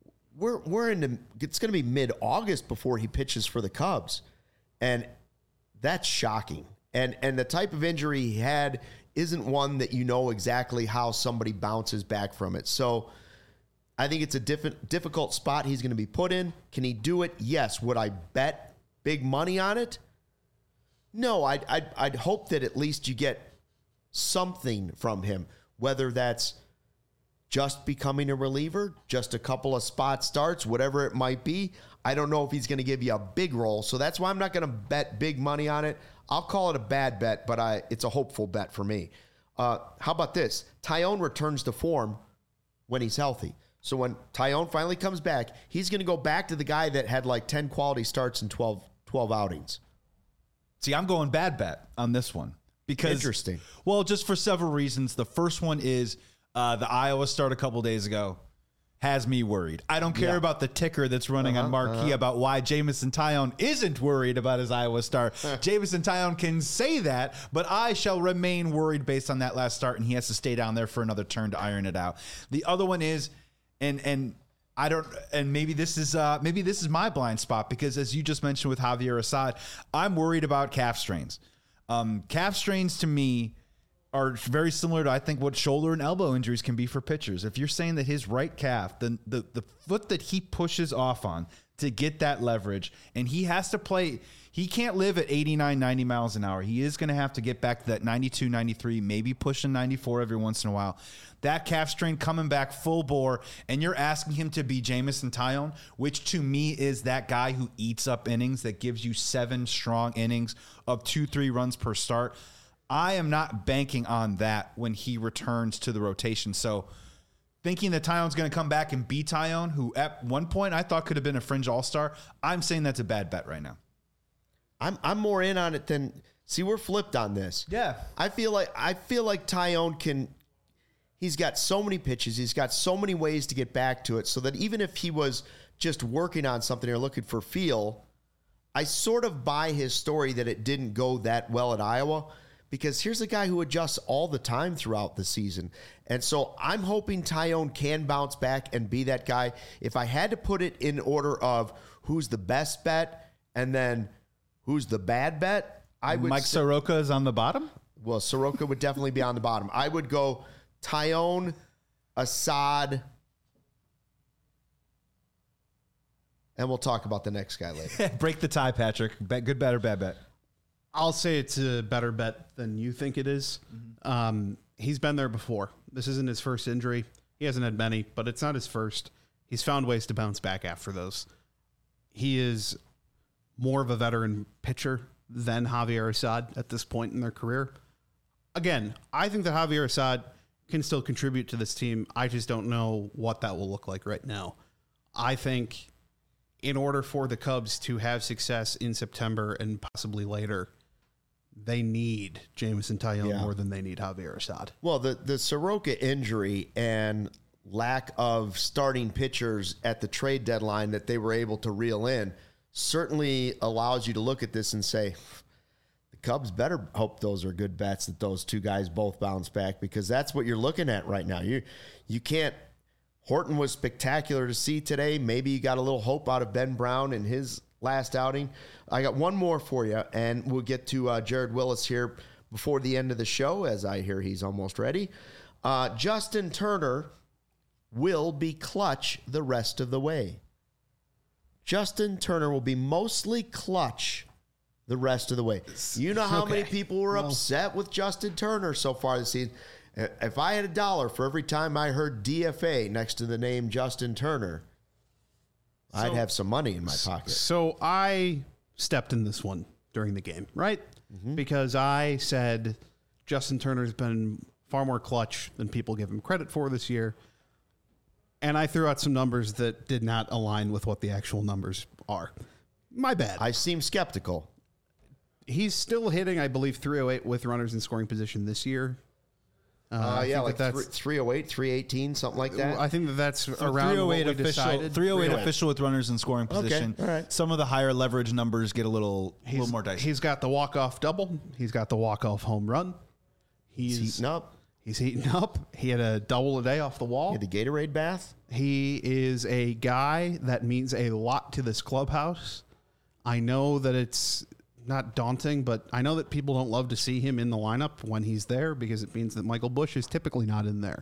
we're in it's going to be mid-August before he pitches for the Cubs. And that's shocking. And the type of injury he had isn't one that you know exactly how somebody bounces back from it. So I think it's a difficult spot he's going to be put in. Can he do it? Yes. Would I bet big money on it? No, I'd hope that at least you get something from him, whether that's just becoming a reliever, just a couple of spot starts, whatever it might be. I don't know if he's going to give you a big role, so that's why I'm not going to bet big money on it. I'll call it a bad bet, but it's a hopeful bet for me. How about this? Taillon returns to form when he's healthy. So when Taillon finally comes back, he's going to go back to the guy that had like 10 quality starts in 12 outings. See, I'm going bad bet on this one. Because, interesting. Well, just for several reasons. The first one is the Iowa start a couple days ago has me worried. I don't care about the ticker that's running on Marquee about why Jameson Taillon isn't worried about his Iowa start. Jameson Taillon can say that, but I shall remain worried based on that last start, and he has to stay down there for another turn to iron it out. The other one is, and I don't, and maybe this is my blind spot, because as you just mentioned with Javier Assad, I'm worried about calf strains. Calf strains to me are very similar to, I think, what shoulder and elbow injuries can be for pitchers. If you're saying that his right calf, the foot that he pushes off on to get that leverage, and he has to play, he can't live at 89, 90 miles an hour. He is going to have to get back to that 92, 93, maybe pushing 94 every once in a while. That calf strain coming back full bore, and you're asking him to be Jameson Taillon, which to me is that guy who eats up innings, that gives you 7 strong innings of 2-3 runs per start. I am not banking on that when he returns to the rotation. So thinking that Taillon's going to come back and be Taillon, who at one point I thought could have been a fringe all-star, I'm saying that's a bad bet right now. I'm more in on it than, see, we're flipped on this. Yeah. I feel like Taillon he's got so many pitches, he's got so many ways to get back to it, so that even if he was just working on something or looking for feel, I sort of buy his story that it didn't go that well at Iowa. Because here's a guy who adjusts all the time throughout the season. And so I'm hoping Taillon can bounce back and be that guy. If I had to put it in order of who's the best bet and then who's the bad bet, I would Mike Soroka is on the bottom? Well, Soroka would definitely be on the bottom. I would go Taillon, Assad, and we'll talk about the next guy later. Break the tie, Patrick. Good bet or bad bet? I'll say it's a better bet than you think it is. He's been there before. This isn't his first injury. He hasn't had many, but it's not his first. He's found ways to bounce back after those. He is more of a veteran pitcher than Javier Assad at this point in their career. Again, I think that Javier Assad can still contribute to this team. I just don't know what that will look like right now. I think in order for the Cubs to have success in September and possibly later, they need Jameson Taillon more than they need Javier Assad. Well, the Soroka injury and lack of starting pitchers at the trade deadline that they were able to reel in certainly allows you to look at this and say, the Cubs better hope those are good bets, that those two guys both bounce back, because that's what you're looking at right now. You can't. Horton was spectacular to see today. Maybe you got a little hope out of Ben Brown and his last outing. I got one more for you, and we'll get to Jared Willis here before the end of the show, as I hear he's almost ready. Justin Turner will be clutch the rest of the way. Justin Turner will be mostly clutch the rest of the way. You know how many people were upset with Justin Turner so far this season? If I had $1 for every time I heard DFA next to the name Justin Turner, I'd have some money in my pocket. So I stepped in this one during the game, right? Because I said Justin Turner's been far more clutch than people give him credit for this year. And I threw out some numbers that did not align with what the actual numbers are. My bad. I seem skeptical. He's still hitting, I believe, 308 with runners in scoring position this year. Like 308, 318, something like that. I think that's So around 308 what we official, decided. 308 official with runners in scoring position. all right. Some of the higher leverage numbers get a little more dicey. He's got the walk-off double. He's got the walk-off home run. He's heating up. He's heating up. He had a double a day off the wall. He had the Gatorade bath. He is a guy that means a lot to this clubhouse. I know that it's not daunting, but I know that people don't love to see him in the lineup when he's there because it means that Michael Busch is typically not in there.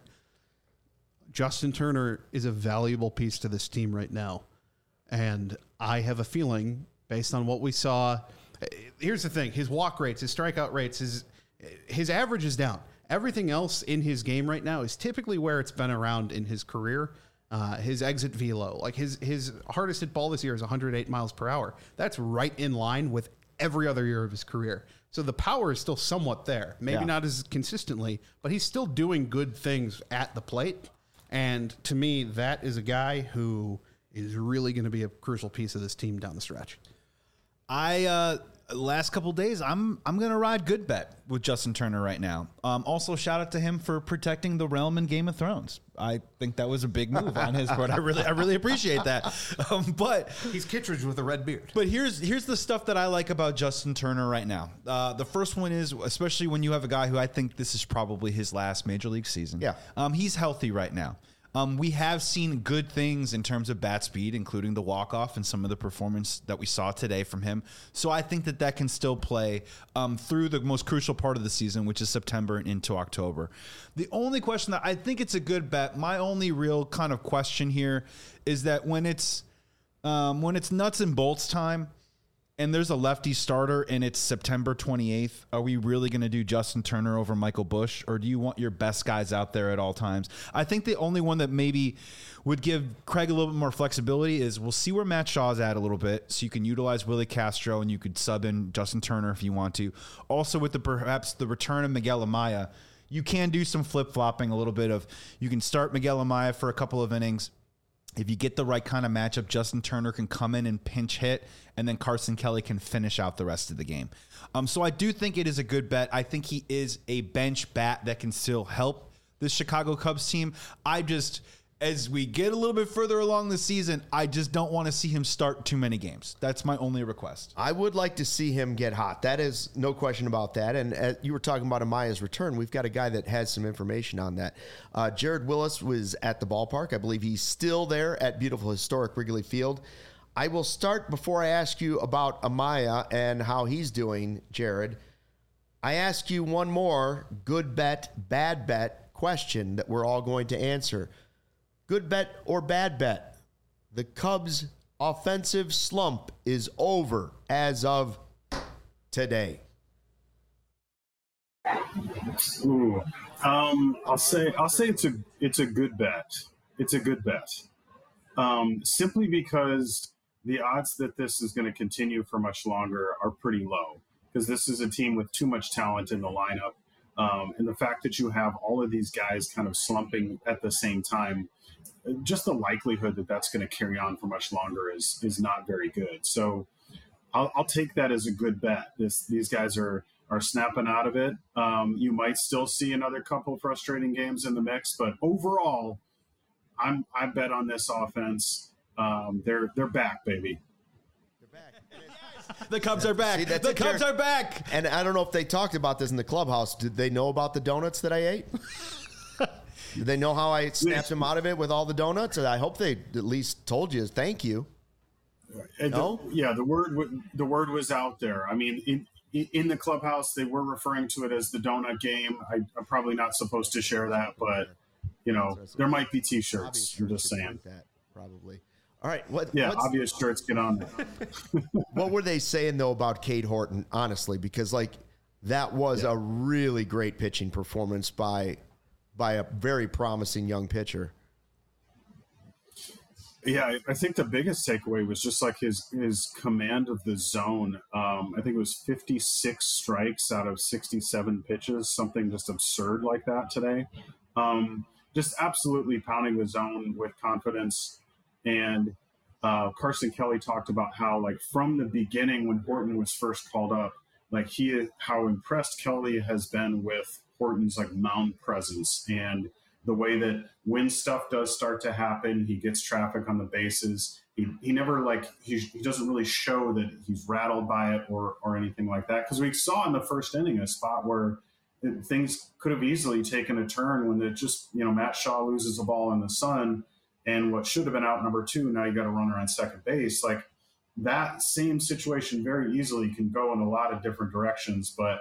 Justin Turner is a valuable piece to this team right now. And I have a feeling, based on what we saw, here's the thing. His walk rates, his strikeout rates, his average is down. Everything else in his game right now is typically where it's been around in his career. His exit velo, like his hardest hit ball this year is 108 miles per hour. That's right in line with every other year of his career. So the power is still somewhat there. Maybe not as consistently, but he's still doing good things at the plate. And to me, that is a guy who is really going to be a crucial piece of this team down the stretch. Last couple days, I'm going to ride good bet with Justin Turner right now. Also, shout out to him for protecting the realm in Game of Thrones. I think that was a big move on his part. I really appreciate that. But he's Kittredge with a red beard. But here's the stuff that I like about Justin Turner right now. The first one is, especially when you have a guy who I think this is probably his last major league season. Yeah. He's healthy right now. We have seen good things in terms of bat speed, including the walk-off and some of the performance that we saw today from him. So I think that can still play through the most crucial part of the season, which is September and into October. The only question that I think it's a good bet, my only real kind of question here is that when it's nuts and bolts time, and there's a lefty starter and it's September 28th, are we really going to do Justin Turner over Michael Busch, or do you want your best guys out there at all times? I think the only one that maybe would give Craig a little bit more flexibility is we'll see where Matt Shaw's at a little bit, so you can utilize Willie Castro and you could sub in Justin Turner if you want to. Also with perhaps the return of Miguel Amaya, you can do some flip-flopping, a little bit of, you can start Miguel Amaya for a couple of innings. If you get the right kind of matchup, Justin Turner can come in and pinch hit, and then Carson Kelly can finish out the rest of the game. So I do think it is a good bet. I think he is a bench bat that can still help this Chicago Cubs team. As we get a little bit further along the season, I just don't want to see him start too many games. That's my only request. I would like to see him get hot. That is no question about that. And you were talking about Amaya's return. We've got a guy that has some information on that. Jared Willis was at the ballpark. I believe he's still there at beautiful historic Wrigley Field. I will start before I ask you about Amaya and how he's doing, Jared. I ask you one more good bet, bad bet question that we're all going to answer. Good bet or bad bet? The Cubs' offensive slump is over as of today. Ooh, I'll say it's a good bet. It's a good bet. Simply because the odds that this is going to continue for much longer are pretty low, because this is a team with too much talent in the lineup. And the fact that you have all of these guys kind of slumping at the same time, just the likelihood that that's going to carry on for much longer is not very good. So I'll take that as a good bet. These guys are snapping out of it. You might still see another couple frustrating games in the mix, but overall, I bet on this offense. They're back, baby. The Cubs are back. See, the Cubs are back. And I don't know if they talked about this in the clubhouse. Did they know about the donuts that I ate? Did they know how I snapped them out of it with all the donuts? I hope they at least told you thank you. No? The word was out there. I mean, in the clubhouse, they were referring to it as the donut game. I'm probably not supposed to share that, but there might be T-shirts. I'm just saying that probably. All right. Obvious shirts get on there. What were they saying though about Cade Horton? Honestly, because that was a really great pitching performance by a very promising young pitcher. Yeah, I think the biggest takeaway was just his command of the zone. I think it was 56 strikes out of 67 pitches, something just absurd like that today. Just absolutely pounding the zone with confidence. And Carson Kelly talked about how, from the beginning when Horton was first called up, how impressed Kelly has been with Horton's mound presence and the way that when stuff does start to happen, he gets traffic on the bases. He never he doesn't really show that he's rattled by it or anything like that. Because we saw in the first inning a spot where things could have easily taken a turn when Matt Shaw loses a ball in the sun and what should have been out number 2, now you got a runner on second base. That same situation very easily can go in a lot of different directions. But,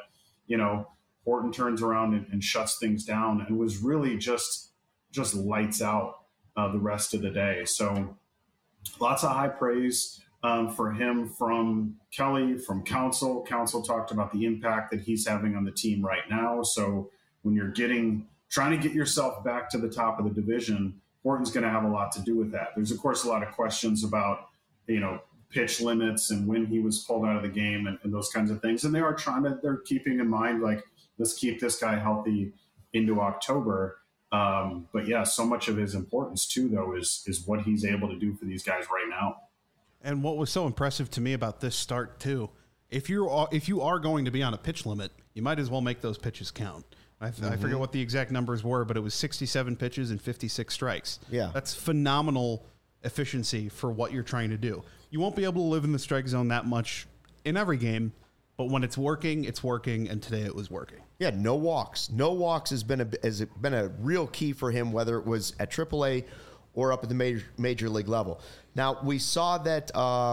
Horton turns around and shuts things down and was really just lights out the rest of the day. So lots of high praise for him from Kelly, from Counsell. Counsell talked about the impact that he's having on the team right now. So when you're trying to get yourself back to the top of the division, Horton's going to have a lot to do with that. There's, of course, a lot of questions about, pitch limits and when he was pulled out of the game and those kinds of things. And they're keeping in mind, let's keep this guy healthy into October. But yeah, so much of his importance too, though, is what he's able to do for these guys right now. And what was so impressive to me about this start too, if you are going to be on a pitch limit, you might as well make those pitches count. I forget what the exact numbers were, but it was 67 pitches and 56 strikes. Yeah, that's phenomenal efficiency for what you're trying to do. You won't be able to live in the strike zone that much in every game, but when it's working, and today it was working. Yeah, no walks. No walks has been a real key for him, whether it was at AAA or up at the major league level. Now, we saw that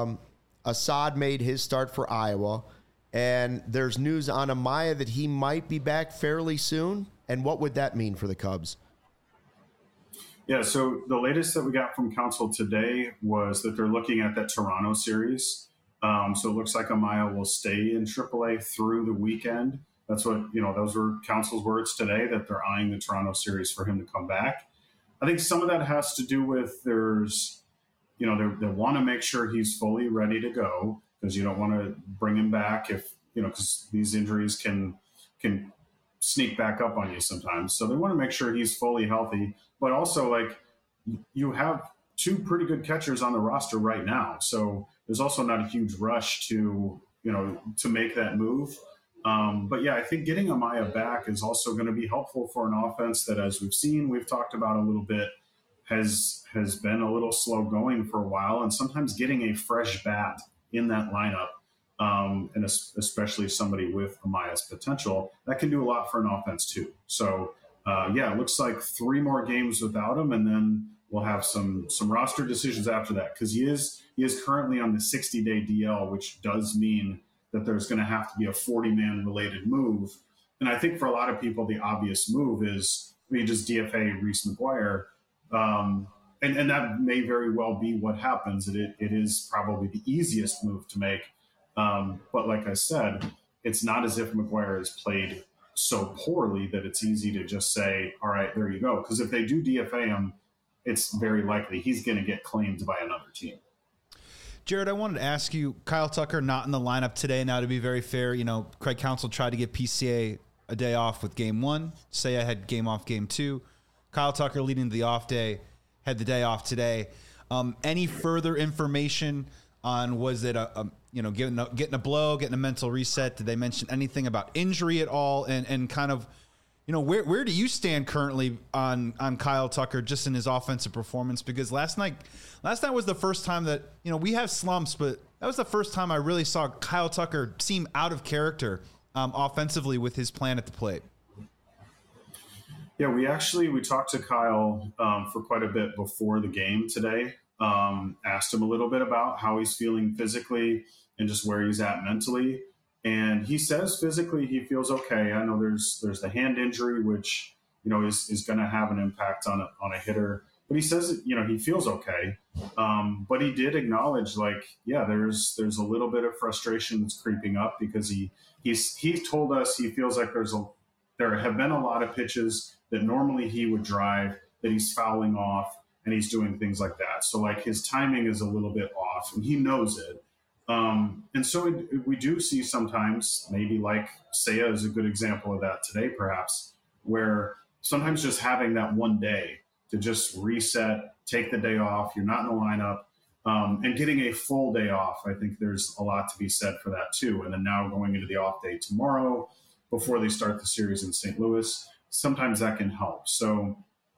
Assad made his start for Iowa, and there's news on Amaya that he might be back fairly soon. And what would that mean for the Cubs? Yeah, so the latest that we got from Counsell today was that they're looking at that Toronto series. So it looks like Amaya will stay in AAA through the weekend. That's what, those were Counsell's words today, that they're eyeing the Toronto series for him to come back. I think some of that has to do with they want to make sure he's fully ready to go, because you don't want to bring him back because these injuries can sneak back up on you sometimes. So they want to make sure he's fully healthy, but also you have 2 pretty good catchers on the roster right now. So there's also not a huge rush to make that move. But yeah, I think getting Amaya back is also going to be helpful for an offense that, as we've talked about a little bit, has been a little slow going for a while. And sometimes getting a fresh bat in that lineup, and especially somebody with Amaya's potential, that can do a lot for an offense too. So it looks like 3 more games without him, and then we'll have some roster decisions after that, because he is currently on the 60-day DL, which does mean that there's going to have to be a 40-man related move. And I think for a lot of people, the obvious move is we just DFA Reese McGuire. And that may very well be what happens. It is probably the easiest move to make. But like I said, it's not as if McGuire has played so poorly that it's easy to just say, all right, there you go. Because if they do DFA him, it's very likely he's going to get claimed by another team. Jared, I wanted to ask you, Kyle Tucker not in the lineup today. Now, to be very fair, Craig Counsell tried to give PCA a day off with game 1. Say I had game off game 2. Kyle Tucker leading the off day, had the day off today. Any further information on, was it getting a blow, getting a mental reset? Did they mention anything about injury at all? And kind of, where do you stand currently on Kyle Tucker just in his offensive performance? Because last night was the first time that, we have slumps, but that was the first time I really saw Kyle Tucker seem out of character offensively with his plan at the plate. Yeah, we talked to Kyle for quite a bit before the game today. asked him a little bit about how he's feeling physically and just where he's at mentally. And he says physically he feels okay. I know there's the hand injury, which, is going to have an impact on a hitter. But he says, he feels okay. But he did acknowledge, there's a little bit of frustration that's creeping up because he told us he feels like there have been a lot of pitches that normally he would drive that he's fouling off and he's doing things like that. So his timing is a little bit off and he knows it. And so we do see sometimes, maybe Seiya is a good example of that today, perhaps, where sometimes just having that one day to just reset, take the day off, you're not in the lineup, and getting a full day off. I think there's a lot to be said for that too. And then now going into the off day tomorrow before they start the series in St. Louis, sometimes that can help. So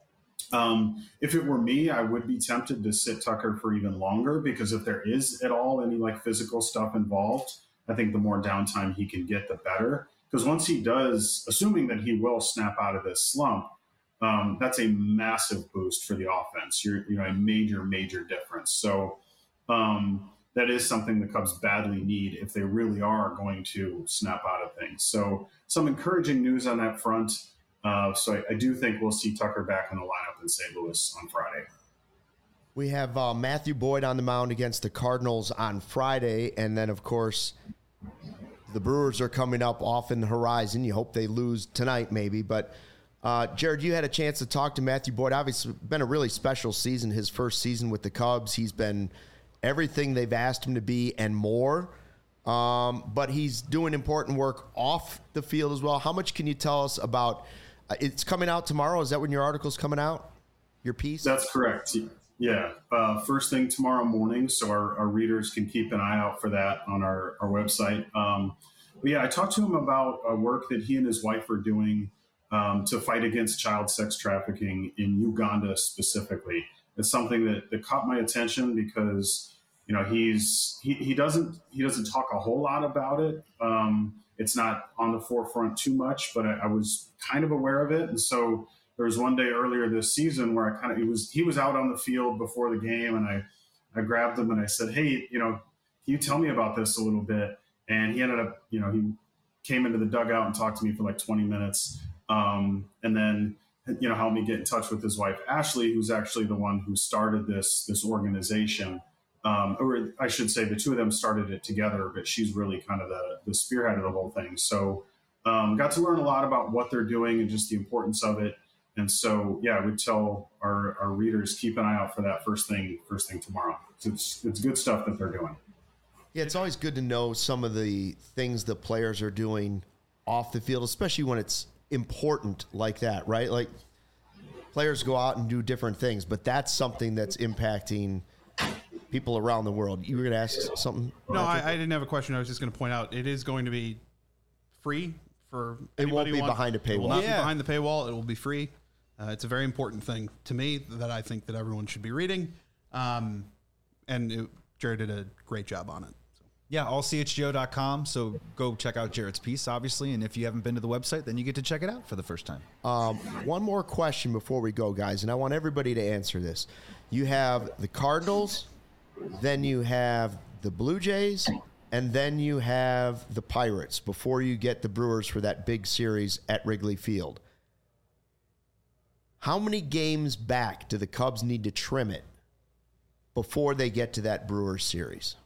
if it were me, I would be tempted to sit Tucker for even longer, because if there is at all any physical stuff involved, I think the more downtime he can get, the better. Because once he does, assuming that he will snap out of this slump, that's a massive boost for the offense. You're a major difference. So that is something the Cubs badly need if they really are going to snap out of things. So some encouraging news on that front. So I do think we'll see Tucker back in the lineup in St. Louis on Friday. We have Matthew Boyd on the mound against the Cardinals on Friday. And then, of course, the Brewers are coming up off in the horizon. You hope they lose tonight maybe. But, Jared, you had a chance to talk to Matthew Boyd. Obviously, been a really special season, his first season with the Cubs. He's been everything they've asked him to be and more. But he's doing important work off the field as well. How much can you tell us about it's coming out tomorrow? Is that when your article's coming out? Your piece? That's correct. Yeah. First thing tomorrow morning. So our readers can keep an eye out for that on our website. But yeah, I talked to him about work that he and his wife are doing to fight against child sex trafficking in Uganda specifically. It's something that caught my attention because, he doesn't talk a whole lot about it. It's not on the forefront too much, but I was kind of aware of it. And so there was one day earlier this season where he was out on the field before the game, and I grabbed him and I said, hey, can you tell me about this a little bit? And he ended up, he came into the dugout and talked to me for 20 minutes. And then, helped me get in touch with his wife, Ashley, who's actually the one who started this organization. Or I should say the two of them started it together, but she's really kind of the spearhead of the whole thing. So got to learn a lot about what they're doing and just the importance of it. And so, yeah, I would tell our readers, keep an eye out for that first thing tomorrow. It's good stuff that they're doing. Yeah, it's always good to know some of the things the players are doing off the field, especially when it's important like that, right? Like players go out and do different things, but that's something that's impacting people around the world. You were going to ask something? No, I didn't have a question. I was just going to point out it is going to be free for it won't be behind a paywall. It will not be behind the paywall. It will be free. It's a very important thing to me that I think that everyone should be reading. Jared did a great job on it. Yeah, allchgo.com. So go check out Jared's piece, obviously. And if you haven't been to the website, then you get to check it out for the first time. One more question before we go, guys, and I want everybody to answer this. You have the Cardinals, then you have the Blue Jays, and then you have the Pirates before you get the Brewers for that big series at Wrigley Field. How many games back do the Cubs need to trim it before they get to that Brewers series?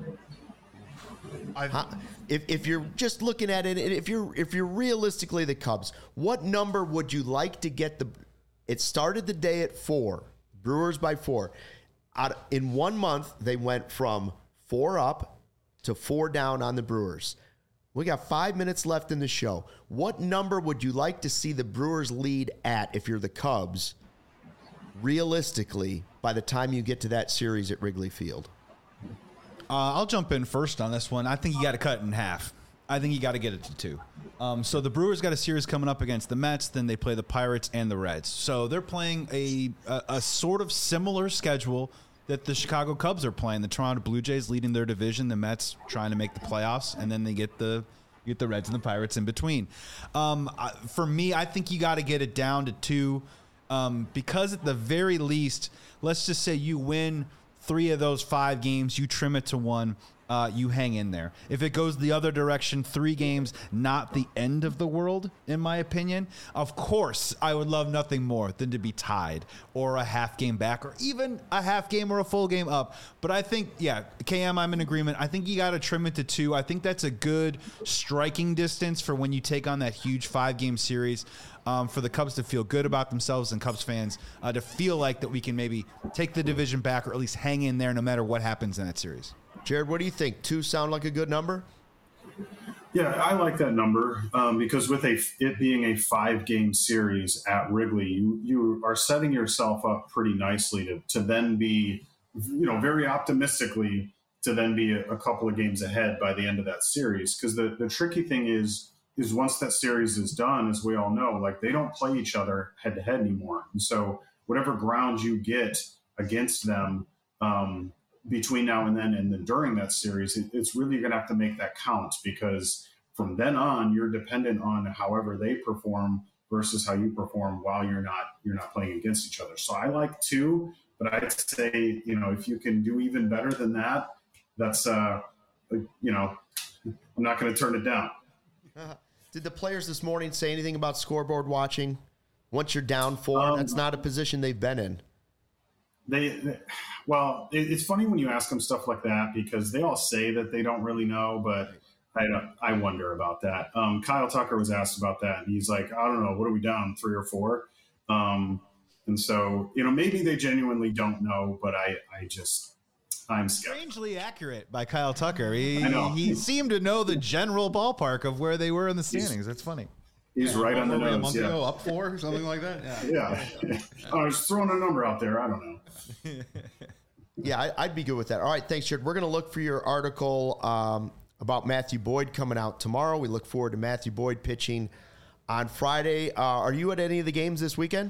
If you're just looking at it, if you're realistically the Cubs, what number would you like to get it started the day at 4, Brewers by 4. In 1 month, they went from 4 up to 4 down on the Brewers. We got 5 minutes left in the show. What number would you like to see the Brewers lead at if you're the Cubs, realistically, by the time you get to that series at Wrigley Field? I'll jump in first on this one. I think you got to cut it in half. I think you got to get it to 2. So the Brewers got a series coming up against the Mets. Then they play the Pirates and the Reds. So they're playing a sort of similar schedule that the Chicago Cubs are playing. The Toronto Blue Jays leading their division. The Mets trying to make the playoffs, and then they get the Reds and the Pirates in between. For me, I think you got to get it down to 2 because at the very least, let's just say you win 3 of those 5 games, you trim it to 1. You hang in there. If it goes the other direction, 3 games, not the end of the world, in my opinion. Of course, I would love nothing more than to be tied or a half game back or even a half game or a full game up. But I think, yeah, KM, I'm in agreement. I think you got to trim it to 2. I think that's a good striking distance for when you take on that huge 5-game series. For the Cubs to feel good about themselves and Cubs fans to feel like that we can maybe take the division back or at least hang in there no matter what happens in that series. Jared, what do you think? 2 sound like a good number? Yeah, I like that number because with it being a 5-game series at Wrigley, you are setting yourself up pretty nicely to then be, very optimistically to then be a couple of games ahead by the end of that series. Because the tricky thing is once that series is done, as we all know, like they don't play each other head to head anymore. And so whatever ground you get against them between now and then during that series, it's really going to have to make that count, because from then on, you're dependent on however they perform versus how you perform while you're not playing against each other. So I like 2, but I'd say, if you can do even better than that, that's, I'm not going to turn it down. Did the players this morning say anything about scoreboard watching? Once you're down 4, that's not a position they've been in. Well, it's funny when you ask them stuff like that, because they all say that they don't really know, but I wonder about that. Kyle Tucker was asked about that, and he's like, I don't know, what are we down, 3 or 4? And so, maybe they genuinely don't know, but I'm skeptical. Strangely accurate by Kyle Tucker. He seemed to know the general ballpark of where they were in the standings. That's funny. He's right on the nose. A month ago, up 4 or something like that. Yeah. I was throwing a number out there. I don't know. Yeah, I'd be good with that. All right, thanks, Jared. We're going to look for your article about Matthew Boyd coming out tomorrow. We look forward to Matthew Boyd pitching on Friday. Are you at any of the games this weekend?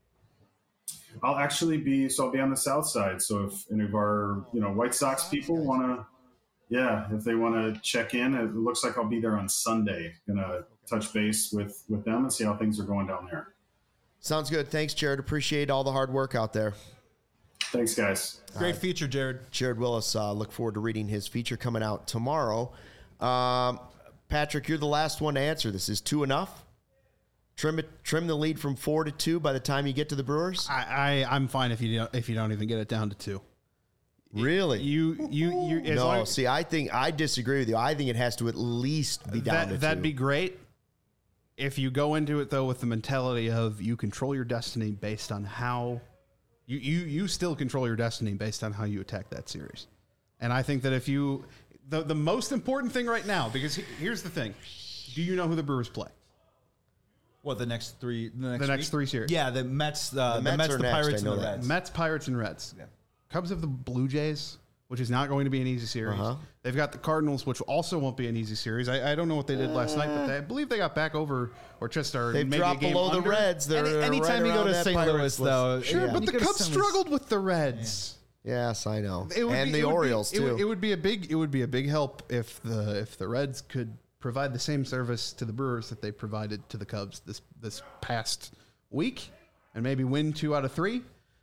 I'll be on the south side. So if any of our, White Sox people want to, if they want to check in, it looks like I'll be there on Sunday. Gonna touch base with them and see how things are going down there. Sounds good. Thanks, Jared. Appreciate all the hard work out there. Thanks, guys. Great feature, Jared. Jared Willis. Look forward to reading his feature coming out tomorrow. Patrick, you're the last one to answer this. Is 2 enough? Trim the lead from 4 to 2 by the time you get to the Brewers? I'm fine if you don't even get it down to 2. Really? No, see, I disagree with you. I think it has to at least be down to 2. That'd be great. If you go into it, though, with the mentality of you control your destiny based on how you still control your destiny based on how you attack that series. And I think that if you, the most important thing right now, because here's the thing. Do you know who the Brewers play? What, the next 3? The next 3 series. Yeah, the Mets, the Pirates, and the Reds. Mets, Pirates, and Reds. Yeah. Cubs have the Blue Jays, which is not going to be an easy series. They've got the Cardinals, which also won't be an easy series. I don't know what they did last night, but I believe they got back over or just are they've maybe dropped a game below under. The Reds. They're anytime you go to St. Louis, though. Sure, but the Cubs struggled with the Reds. Yeah. Yes, I know. And the Orioles, too. It would be a big help if the Reds could provide the same service to the Brewers that they provided to the Cubs this past week, and maybe win 2 out of 3.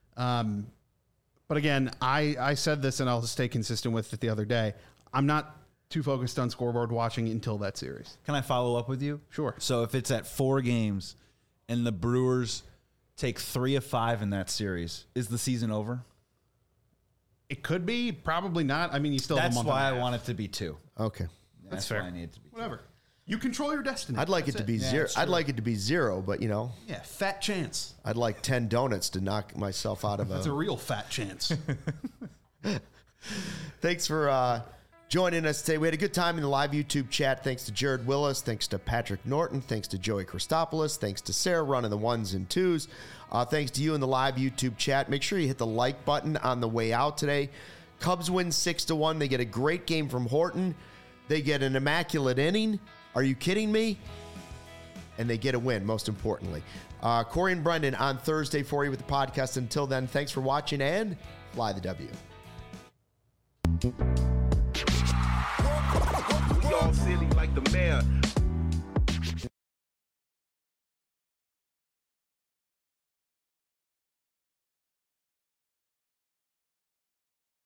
But again, I said this, and I'll stay consistent with it the other day. I'm not too focused on scoreboard watching until that series. Can I follow up with you? Sure. So if it's at 4 games and the Brewers take 3 of 5 in that series, is the season over? It could be, probably not. I mean, you still have a month. That's why I want it to be 2. Okay. That's fair. Why I need it to be 2. Whatever. You control your destiny. I'd like it to be 0. I'd like it to be 0, but Yeah, fat chance. I'd like 10 donuts to knock myself out of That's a real fat chance. Thanks for joining us today. We had a good time in the live YouTube chat. Thanks to Jared Willis. Thanks to Patrick Norton. Thanks to Joey Christopoulos. Thanks to Sarah running the 1s and 2s. Thanks to you in the live YouTube chat. Make sure you hit the like button on the way out today. Cubs win 6-1. They get a great game from Horton. They get an immaculate inning. Are you kidding me? And they get a win, most importantly. Corey and Brendan on Thursday for you with the podcast. Until then, thanks for watching and fly the W. Y'all silly.